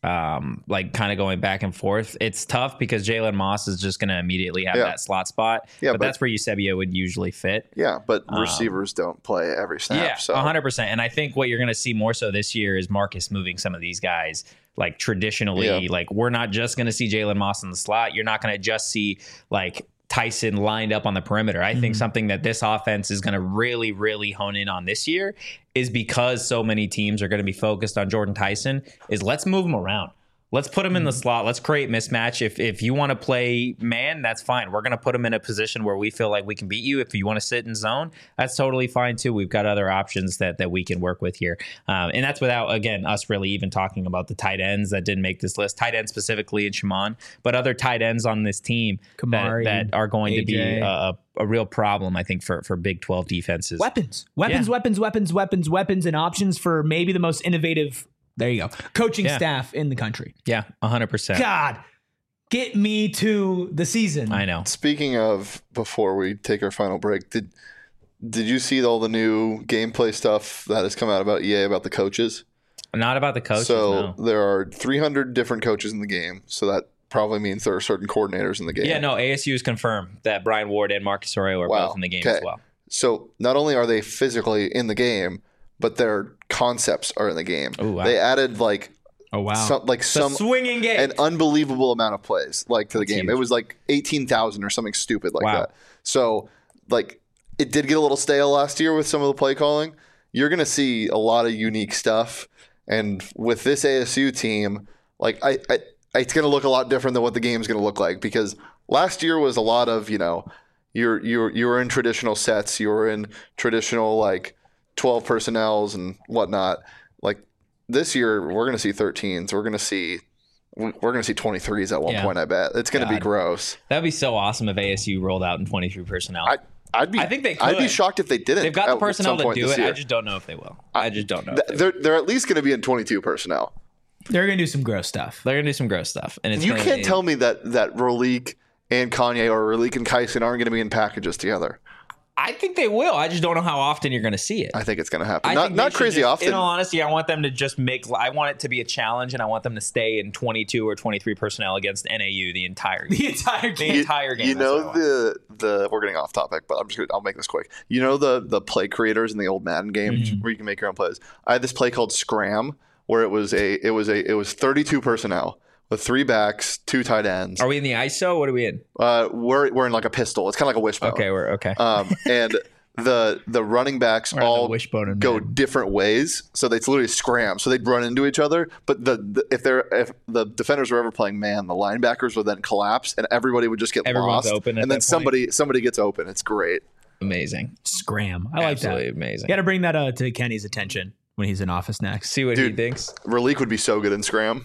um, like kind of going back and forth. It's tough because Jalen Moss is just going to immediately have Yeah. that slot spot. Yeah, but, but- that's where Eusebio would usually fit. Yeah, but Um, receivers don't play every snap. Yeah, so one hundred percent. And I think what you're going to see more so this year is Marcus moving some of these guys. Like traditionally, Yeah. like we're not just going to see Jalen Moss in the slot. You're not going to just see like Tyson lined up on the perimeter. I think something that this offense is going to really, really hone in on this year is because so many teams are going to be focused on Jordan Tyson is let's move him around. Let's put him in the slot. Let's create mismatch. If if you want to play man, that's fine. We're going to put him in a position where we feel like we can beat you. If you want to sit in zone, that's totally fine too. We've got other options that that we can work with here. Um, and that's without, again, us really even talking about the tight ends that didn't make this list. Tight ends specifically in Shimon, but other tight ends on this team that, Kamari, that are going to be A J. a, a real problem, I think, for, for Big twelve defenses. Weapons, weapons, Yeah. weapons, weapons, weapons, weapons, and options for maybe the most innovative. There you go. Coaching Yeah. staff in the country. Yeah, one hundred percent. God, get me to the season. I know. speaking of, before we take our final break, did did you see all the new gameplay stuff that has come out about E A about the coaches? Not about the coaches, so no. there are three hundred different coaches in the game. So that probably means there are certain coordinators in the game. Yeah, no, A S U has confirmed that Brian Ward and Marcus Arroyo are Wow. both in the game Okay. as well. So not only are they physically in the game, but their concepts are in the game. Oh, wow. They added like Oh wow. some like The some swinging game. an unbelievable amount of plays like to the That's game. huge. It was like eighteen thousand or something stupid like Wow. that. So like it did get a little stale last year with some of the play calling. You're going to see a lot of unique stuff, and with this A S U team, like I, I it's going to look a lot different than what the game's going to look like, because last year was a lot of, you know, you're you're you were in traditional sets, you were in traditional like twelve personnels and whatnot. Like this year, we're going to see thirteens. We're going to see we're going to see twenty-threes at one Yeah. point. I bet it's going to be God. gross. That'd be so awesome if A S U rolled out in twenty-three personnel. I I'd be I think they I'd be could. shocked if they didn't. They've got the at personnel some to point do this it. year. I just don't know if they will. I just don't know. If Th- they will. they're they're at least going to be in twenty-two personnel. They're gonna do some gross stuff. They're gonna do some gross stuff, and it's You gonna, can't tell me that that Ralik and Kanye or Ralik and Kyson aren't going to be in packages together. I think they will. I just don't know how often you're going to see it. I think it's going to happen. I Not think they not should crazy just- often. In all honesty, I want them to just make. I want it to be a challenge, and I want them to stay in twenty-two or twenty-three personnel against N A U the entire game. The entire The game. entire game. You That's what I know want. the the we're getting off topic, but I'm just gonna, I'll make this quick. You know the the play creators in the old Madden games Mm-hmm. where you can make your own plays. I had this play called Scram where it was a it was a it was thirty-two personnel with three backs, two tight ends. Are we in the I S O? What are we in? Uh, we're we're in like a pistol. It's kind of like a wishbone. Okay, we're okay. Um, and the the running backs We're on the all wishbone and go Madden. different ways, so they it's literally scram. So they'd run into each other, but the, the if they're if the defenders were ever playing man, the linebackers would then collapse, and everybody would just get Everyone's lost. open at and then that point. somebody somebody gets open. It's great. Amazing. Scram. I like Absolutely that. amazing. You got to bring that uh, to Kenny's attention when he's in office next. See what he Dude. thinks. Ralik would be so good in scram.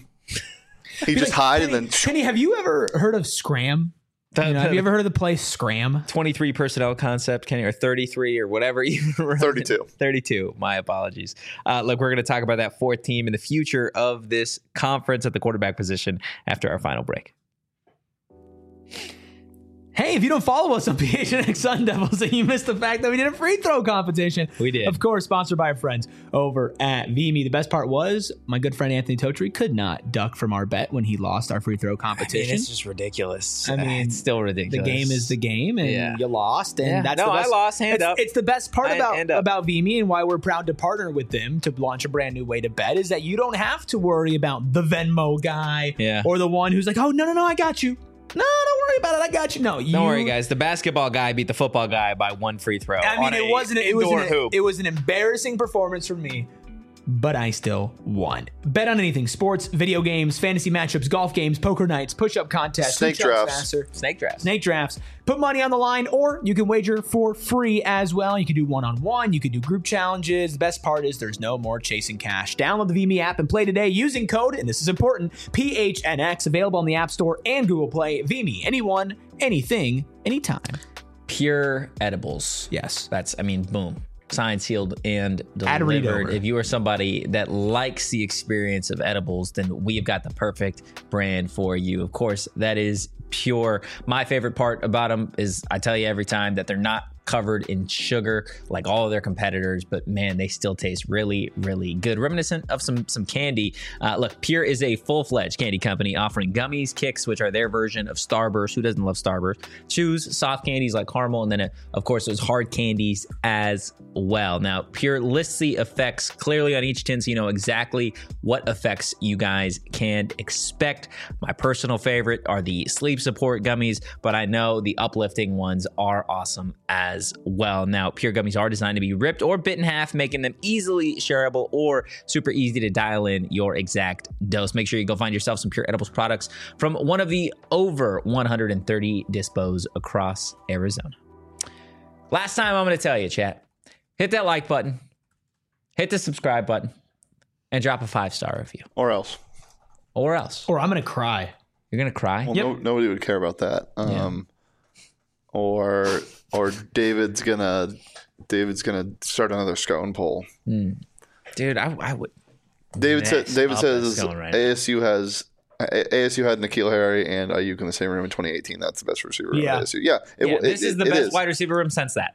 He just Like, hide Kenny, and then Kenny, have you ever heard of Scram? You know, have you ever heard of the play Scram? twenty-three personnel concept, Kenny, or thirty-three or whatever you run. thirty-two. thirty-two. My apologies. Uh, look, we're going to talk about that fourth team and the future of this conference at the quarterback position after our final break. Hey, if you don't follow us on P H N X Sun Devils, then you missed the fact that we did a free throw competition. We did. Of course, sponsored by our friends over at V M E. The best part was my good friend Anthony Totri could not duck from our bet when he lost our free throw I mean, competition. it's just ridiculous. I mean, it's still the ridiculous. game is the game, and Yeah. you lost, and Yeah. that's No, the I best. lost, hand it's, up. it's the best part I- about hand up. about V M E and why we're proud to partner with them to launch a brand new way to bet is that you don't have to worry about the Venmo guy Yeah. or the one who's like, oh no no no, I got you. No, don't worry about it. I got you. No, you, Don't worry, guys. The basketball guy beat the football guy by one free throw. I mean, on it a wasn't. It was. indoor An, hoop. it was an embarrassing performance for me, but I still won. Bet on anything: sports, video games, fantasy matchups, golf games, poker nights, push-up contests, Snake who jumps drafts. faster, Snake drafts. snake drafts. Put money on the line, or you can wager for free as well. You can do one-on-one. You can do group challenges. The best part is there's no more chasing cash. Download the V M E app and play today using code, and this is important, P H N X, available on the App Store and Google Play. V M E, anyone, anything, anytime. Pure edibles. Yes. That's, I mean, boom. Signed, sealed, and Add a read delivered. over. If you are somebody that likes the experience of edibles, then we've got the perfect brand for you. Of course, that is Pure. My favorite part about them is I tell you every time that they're not covered in sugar like all of their competitors, but man, they still taste really, really good. Reminiscent of some some candy. Uh, look, Pure is a full-fledged candy company offering gummies, kicks, which are their version of Starburst. Who doesn't love Starburst? Chews, soft candies like caramel, and then, uh, of course, those hard candies as well. Now, Pure lists the effects clearly on each tin, so you know exactly what effects you guys can expect. My personal favorite are the sleep support gummies, but I know the uplifting ones are awesome as well. Now, Pure gummies are designed to be ripped or bit in half, making them easily shareable or super easy to dial in your exact dose. Make sure you go find yourself some Pure Edibles products from one of the over one hundred thirty dispos across Arizona. Last time I'm going to tell you, chat, hit that like button, hit the subscribe button, and drop a five-star review. Or else. Or else. Or I'm going to cry. You're going to cry? Well, Yep. no, nobody would care about that. Um, yeah. Or or David's gonna David's gonna start another scone poll. Mm. Dude, I, I would. David said. David says right A S U has A S U had N'Keal Harry and Ayuk in the same room in twenty eighteen. That's the best receiver room Yeah. at A S U. Yeah, it, yeah it, this it, is the it best is. wide receiver room since that.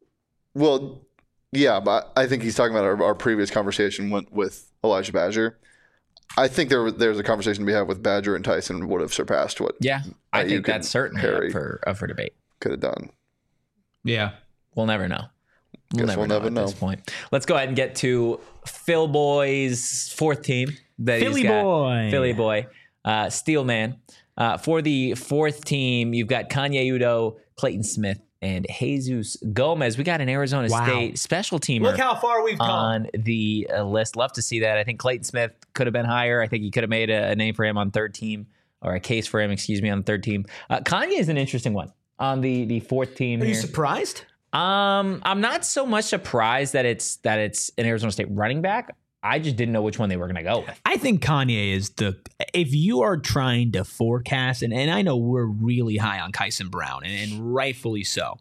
Well, yeah, but I think he's talking about our, our previous conversation with, with Elijah Badger. I think there there's a conversation to be had with Badger and Tyson would have surpassed what Yeah, I Ayuk think that's and certainly Harry up for, up for debate. could have done. Yeah. We'll never know. We'll Guess never we'll know never at know. this point. Let's go ahead and get to Phil Boy's fourth team. That Philly he's got. boy. Philly boy. Uh, Steelman. Uh, for the fourth team, you've got Kanye Udo, Clayton Smith, and Jesus Gomez. We got an Arizona Wow. State special teamer Look how far we've come. on the uh, list. Love to see that. I think Clayton Smith could have been higher. I think he could have made a, a name for him on third team, or a case for him, excuse me, on the third team. Uh, Kanye is an interesting one on the, the fourth team Are here. you surprised? Um, I'm not so much surprised that it's that it's an Arizona State running back. I just didn't know which one they were going to go with. I think Kanye is the, if you are trying to forecast, and, and I know we're really high on Kyson Brown, and, and rightfully so,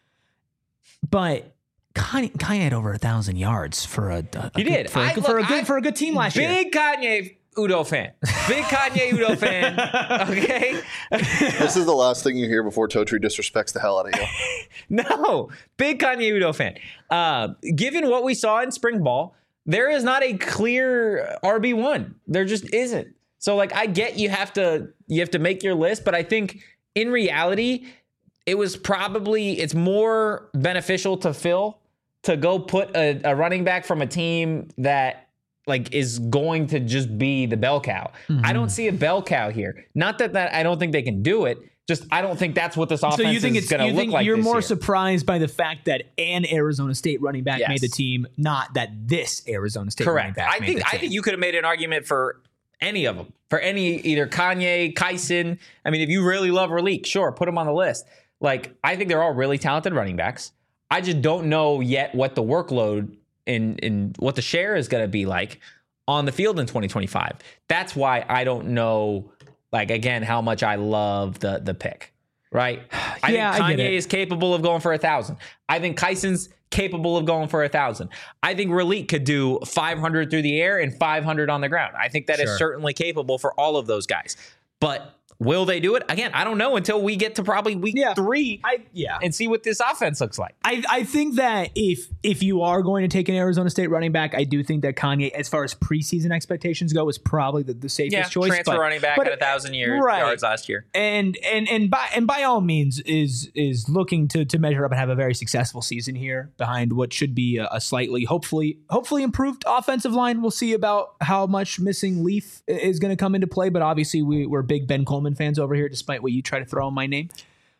but Kanye, Kanye had over a thousand yards for a, a He did. for, a, I- for, look, a good I- for a good team last year. Big Kanye Udo fan. Big Kanye Udo fan. Okay. This is the last thing you hear before Totri disrespects the hell out of you. No, big Kanye Udo fan. Uh, given what we saw in spring ball, there is not a clear R B one. There just isn't. So, like, I get you have to you have to make your list, but I think in reality, it was probably it's more beneficial to Phil to go put a, a running back from a team that like is going to just be the bell cow. Mm-hmm. I don't see a bell cow here. Not that that I don't think they can do it. Just I don't think that's what this offense So you think is it's going to you look think like. you're this more year. surprised by the fact that an Arizona State running back Yes. made the team, not that this Arizona State running Correct. back I made think the I team. think you could have made an argument for any of them. For any either Kanye, Kyson. I mean, if you really love Raleek, sure, put him on the list. Like I think they're all really talented running backs. I just don't know yet what the workload in in what the share is going to be like on the field in twenty twenty-five. That's why I don't know. Like again, how much I love the the pick. Right? I Yeah, I think get Kanye it. is capable of going for a thousand. I think Kyson's capable of going for a thousand. I think Raleek could do five hundred through the air and five hundred on the ground. I think that is Sure. certainly capable for all of those guys. But will they do it? Again, I don't know until we get to probably week Yeah. three I yeah. and see what this offense looks like. I, I think that if if you are going to take an Arizona State running back, I do think that Kanye, as far as preseason expectations go, is probably the, the safest Yeah, choice. transfer but, running back but- at a thousand year, right. yards last year. and and and by and by all means is is looking to to measure up and have a very successful season here behind what should be a, a slightly hopefully hopefully improved offensive line. We'll see about how much missing Leaf is going to come into play, but obviously we, we're big Ben Coleman fans over here, despite what you try to throw in my name.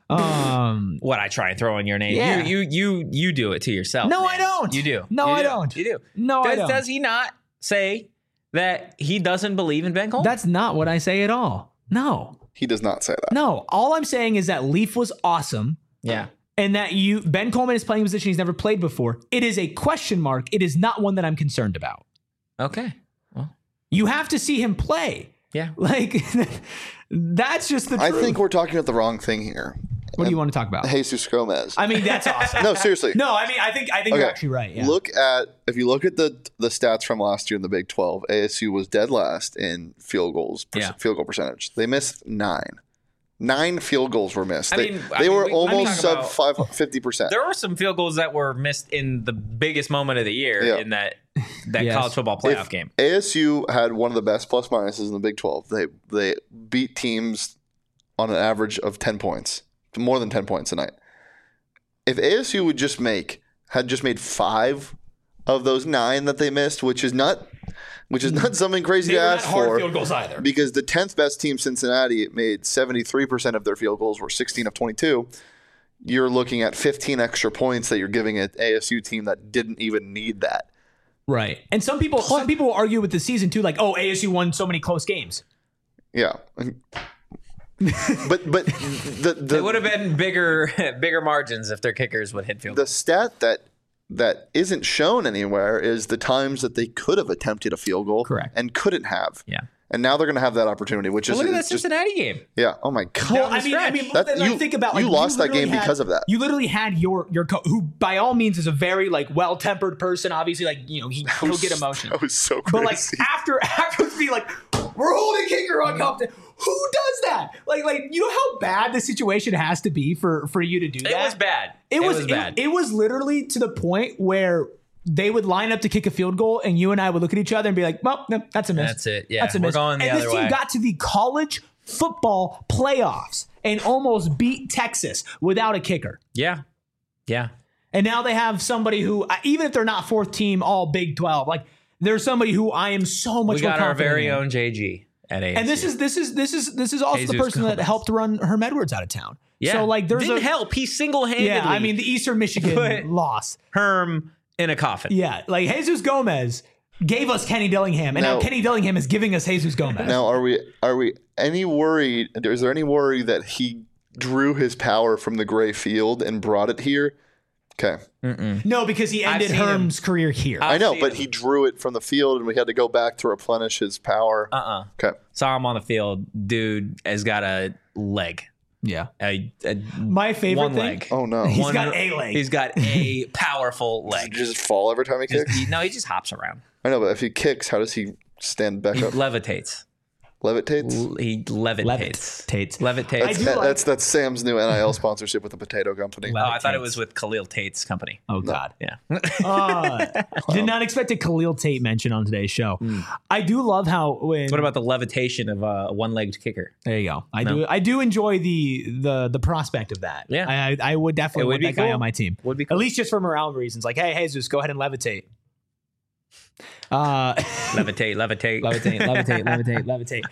Um, What I try and throw in your name. Yeah. You you you you do it to yourself. No, man. I don't. You do. No, You I do. don't. You do. No, does, I don't. Does he not say that he doesn't believe in Ben Coleman? That's not what I say at all. No, He does not say that. no. All I'm saying is that Leaf was awesome. yeah. And that you Ben Coleman is playing a position he's never played before. It is a question mark. It is not one that I'm concerned about. Okay. Well, You have to see him play. yeah. Like that's just the I truth. think we're talking about the wrong thing here. What do you want to talk about? Jesus Gomez. I mean, that's awesome. No, seriously. No, I mean, I think I think you're Okay. actually right. Yeah. Look at if you look at the the stats from last year in the Big twelve, A S U was dead last in field goals, per- Yeah. field goal percentage. They missed nine, Nine field goals were missed. I They, mean, they I mean, were we- almost I mean, sub about- five, fifty percent. There were some field goals that were missed in the biggest moment of the year Yeah. in that that Yes. college football playoff If game. A S U had one of the best plus minuses in the Big twelve. They they beat teams on an average of ten points, more than ten points a night. If A S U would just make had just made five of those nine that they missed, which is not which is not something crazy They to were not ask hard for, field goals either. because the tenth best team, Cincinnati, made seventy-three percent of their field goals, were sixteen of twenty-two. You're looking at fifteen extra points that you're giving an A S U team that didn't even need that. Right. And some people some people will argue with the season too, like, oh, A S U won so many close games. Yeah. but but the the, It would have been bigger bigger margins if their kickers would hit field the goals. stat that that isn't shown anywhere is the times that they could have attempted a field goal Correct. and couldn't have. Yeah. And now they're going to have that opportunity, which Well, is look at that is just Cincinnati game. yeah. Oh my god. Well, the I mean, I mean, That- then you- I think about like you lost that literally game because of that. You literally had your your co- who by all means is a very like well tempered person. Obviously, like you know he he'll get emotion. That was so crazy. But like after after be like we're holding kicker uncomfortable. Who does that? Like like you know how bad the situation has to be for for you to do that. It was bad. It was, was bad. It, it was literally to the point where they would line up to kick a field goal, and you and I would look at each other and be like, "Well, no, that's a miss. That's it. Yeah, that's a we're miss." going the and other this team way. got to the college football playoffs and almost beat Texas without a kicker. Yeah. Yeah. And now they have somebody who, uh, even if they're not fourth team, all Big twelve, like there's somebody who I am so much We more got our confident very in. own J G at A S U. And this is this is this is this is also Jesus the person that Gomez. helped run Herm Edwards out of town. yeah. So like there's Didn't a help. He single-handedly yeah. I mean the Eastern Michigan Put- loss. Herm in a coffin. Yeah, like Jesus Gomez gave us Kenny Dillingham, and now, Now- Kenny Dillingham is giving us Jesus Gomez. now are we are we any worried? Is there any worry that he drew his power from the gray field and brought it here? Okay. No, because he I've ended seen him. Herm's career here. I know, see but him. he drew it from the field, and we had to go back to replenish his power. Uh-uh. Okay. Saw him on the field. Dude has got a leg. yeah. A, a My favorite one thing. leg. Oh no! He's One- got a leg. He's got a powerful Does he leg. just fall every time he Just- kicks? he- no, he just hops around. I know, but if he kicks, how does he stand back He up? levitates. Levitates. L- He levitates. Tates. Levitates. I do That- like- that's that's Sam's new N I L sponsorship with the potato company. Oh, I thought it Levitates. was with Khalil Tate's company. Oh God. Yeah. Uh, did not expect a Khalil Tate mention on today's show. I do love how when What about the levitation of a one-legged kicker? there you go. I No. do I do enjoy the the the prospect of that. Yeah. I I would definitely It would want be that guy cool. on my team. Would be At cool. least just for morale reasons. Like, hey, Jesus, go ahead and levitate. Uh levitate, levitate, levitate, levitate, levitate, levitate.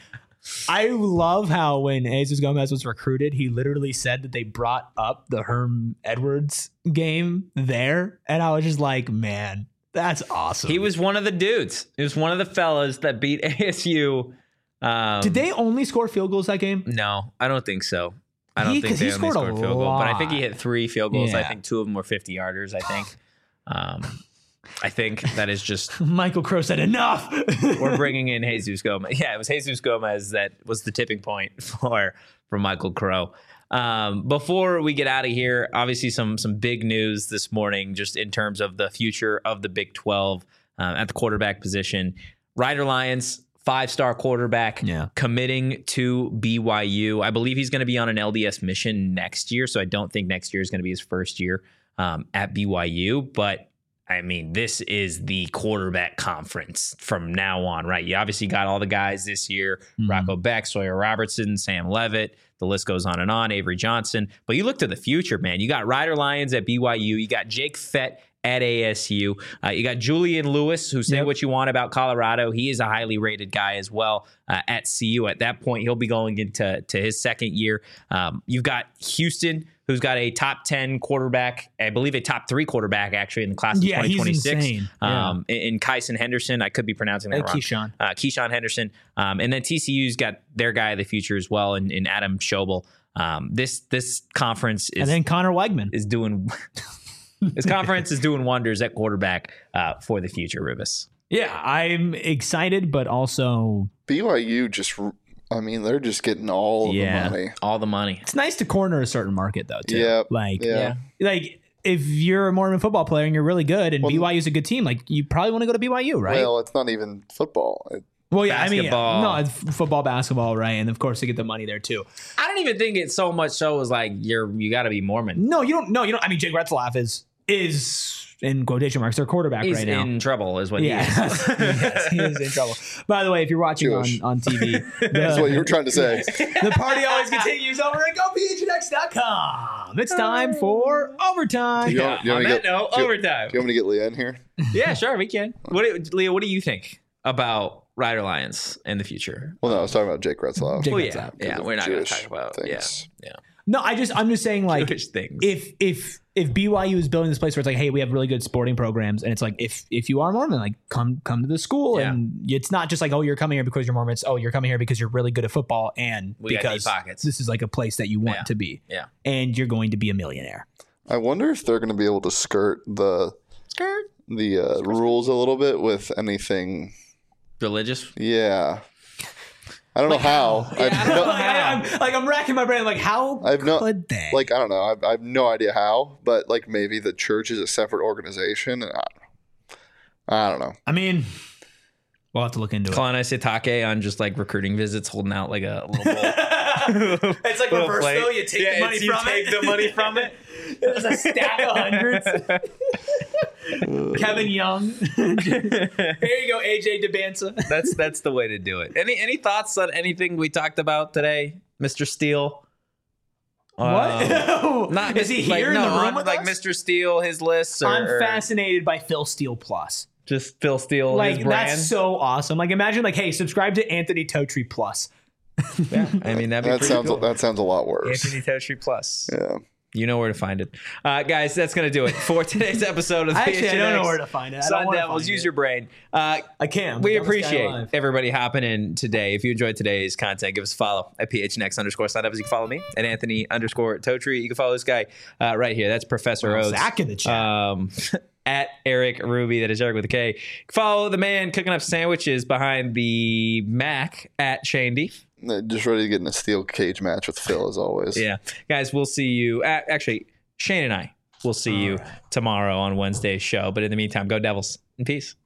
I love how when Jesus Gomez was recruited, he literally said that they brought up the Herm Edwards game there. And I was just like, man, that's awesome. He was one of the dudes. He was one of the fellas that beat A S U. Um, Did they only score field goals that game? No, I don't think so. I don't He- think 'cause they he only scored a scored field goal, but I think he lot. hit three field goals. I Yeah. think two of them were fifty yarders. I think. Um, I think that is just Michael Crow said enough. we're bringing in Jesus Gomez. Yeah, it was Jesus Gomez that was the tipping point for for Michael Crow. Um, before we get out of here, obviously some some big news this morning, just in terms of the future of the Big twelve uh, at the quarterback position. Ryder Lyons, five-star quarterback, Yeah. committing to B Y U. I believe he's going to be on an L D S mission next year, so I don't think next year is going to be his first year um, at B Y U, but I mean, this is the quarterback conference from now on, right? You obviously got all the guys this year, Mhm. Rocco Beck, Sawyer Robertson, Sam Levitt. The list goes on and on, Avery Johnson. But you look to the future, man. You got Ryder Lyons at B Y U. You got Jake Fett at A S U. Uh, you got Julian Lewis, who say Yep. what you want about Colorado. He is a highly rated guy as well uh, at C U. At that point, he'll be going into to his second year. Um, you've got Houston, who's got a top ten quarterback, I believe a top three quarterback actually in the class of Yeah, he's twenty twenty-six. insane. Yeah. Um, in, in Kyson Henderson, I could be pronouncing that Hey, wrong. Keyshawn. Uh, Keyshawn Henderson. Um, and then T C U's got their guy of the future as well in, in Adam Schobel. Um, this this conference is And then Connor Wegman. is doing this conference is doing wonders at quarterback uh, for the future, Rubus. Yeah, I'm excited, but also B Y U just, I mean, they're just getting all of Yeah, the money. all the money. it's nice to corner a certain market though, too. Yeah, Like, yeah. like if you're a Mormon football player and you're really good and Well, B Y U's a good team, like you probably want to go to B Y U, right? Well, it's not even football. It, Well, yeah, basketball. I mean, no, it's football, basketball, right? And of course, they get the money there too. I don't even think it so much so as like you're you got to be Mormon. No, you don't. No, you don't. I mean, Jake Retzlaff is is in quotation marks their quarterback He's right now. in trouble, is what Yeah, he is. yes, he is in trouble. By the way, if you're watching on, Jewish. on T V, the, That's what you were trying to say. the party always continues over at go P H N X dot com. It's time for overtime. Do you want, do you On want to that get, note, do you- overtime. Do you want me to get Leah in here? Yeah, sure, we can. What, do- Leah? What do you think about Rider Lions in the future? Well, no, I was talking about Jake Retzlaff. Jake Well, Retzlaff. yeah, because yeah, of we're not going to Jewish talk about things. yeah, yeah. No, I just I'm just saying like Jewish things. if if if B Y U is building this place where it's like, hey, we have really good sporting programs, and it's like if if you are Mormon, like come come to the school, Yeah. and it's not just like, oh, you're coming here because you're Mormon. It's, oh, you're coming here because you're really good at football, and We got because deep pockets. this is like a place that you want Yeah. to be, Yeah. and you're going to be a millionaire. I wonder if they're going to be able to skirt the Skirt. the uh, rules a little bit with anything. Religious. Yeah, I don't know how. Yeah, I've I don't no, know like, I, I'm like I'm racking my brain, like how I've no- could they? like I don't know. I've, I have no idea how, but like maybe the church is a separate organization. And I don't know. I don't know. I mean, we'll have to look into it. Kalani Sitake on just like recruiting visits, holding out like a little bowl. It's like Little reverse plate. though. You take Yeah, the money it's- you from take it. the money from it. There's a stack of hundreds. Kevin Young. Here you go, A J DeBanza. That's that's the way to do it. Any any thoughts on anything we talked about today, Mister Steele? What? Um, not Is he like, here in no, the room on, with like us? Mister Steele, his lists, or, I'm or fascinated by Phil Steele Plus. just Phil Steele, Like his brand. that's so awesome. Like imagine like, hey, subscribe to Anthony Totri Plus. yeah, I mean that'd be That pretty sounds cool. that sounds a lot worse. Anthony Totri Plus. Yeah. You know where to find it. Uh, guys, that's going to do it for today's episode of the Actually, I don't know P H N X where to find it. I don't Sun wanna Devils. find Use it. your brain. Uh, I can. we Dumbest guy appreciate alive. everybody hopping in today. If you enjoyed today's content, give us a follow at P H N X underscore Sun Devils. You can follow me at Anthony underscore Totri. You can follow this guy uh, right here. That's Professor Well, Oates. Zach in the chat. Um, at Eric Ruby. That is Eric with a K. Follow the man cooking up sandwiches behind the Mac at Shane D. Just ready to get in a steel cage match with Phil as always. Yeah. Guys, we'll see you. Uh, actually, Shane and I will see you tomorrow on Wednesday's show. But in the meantime, go Devils and peace.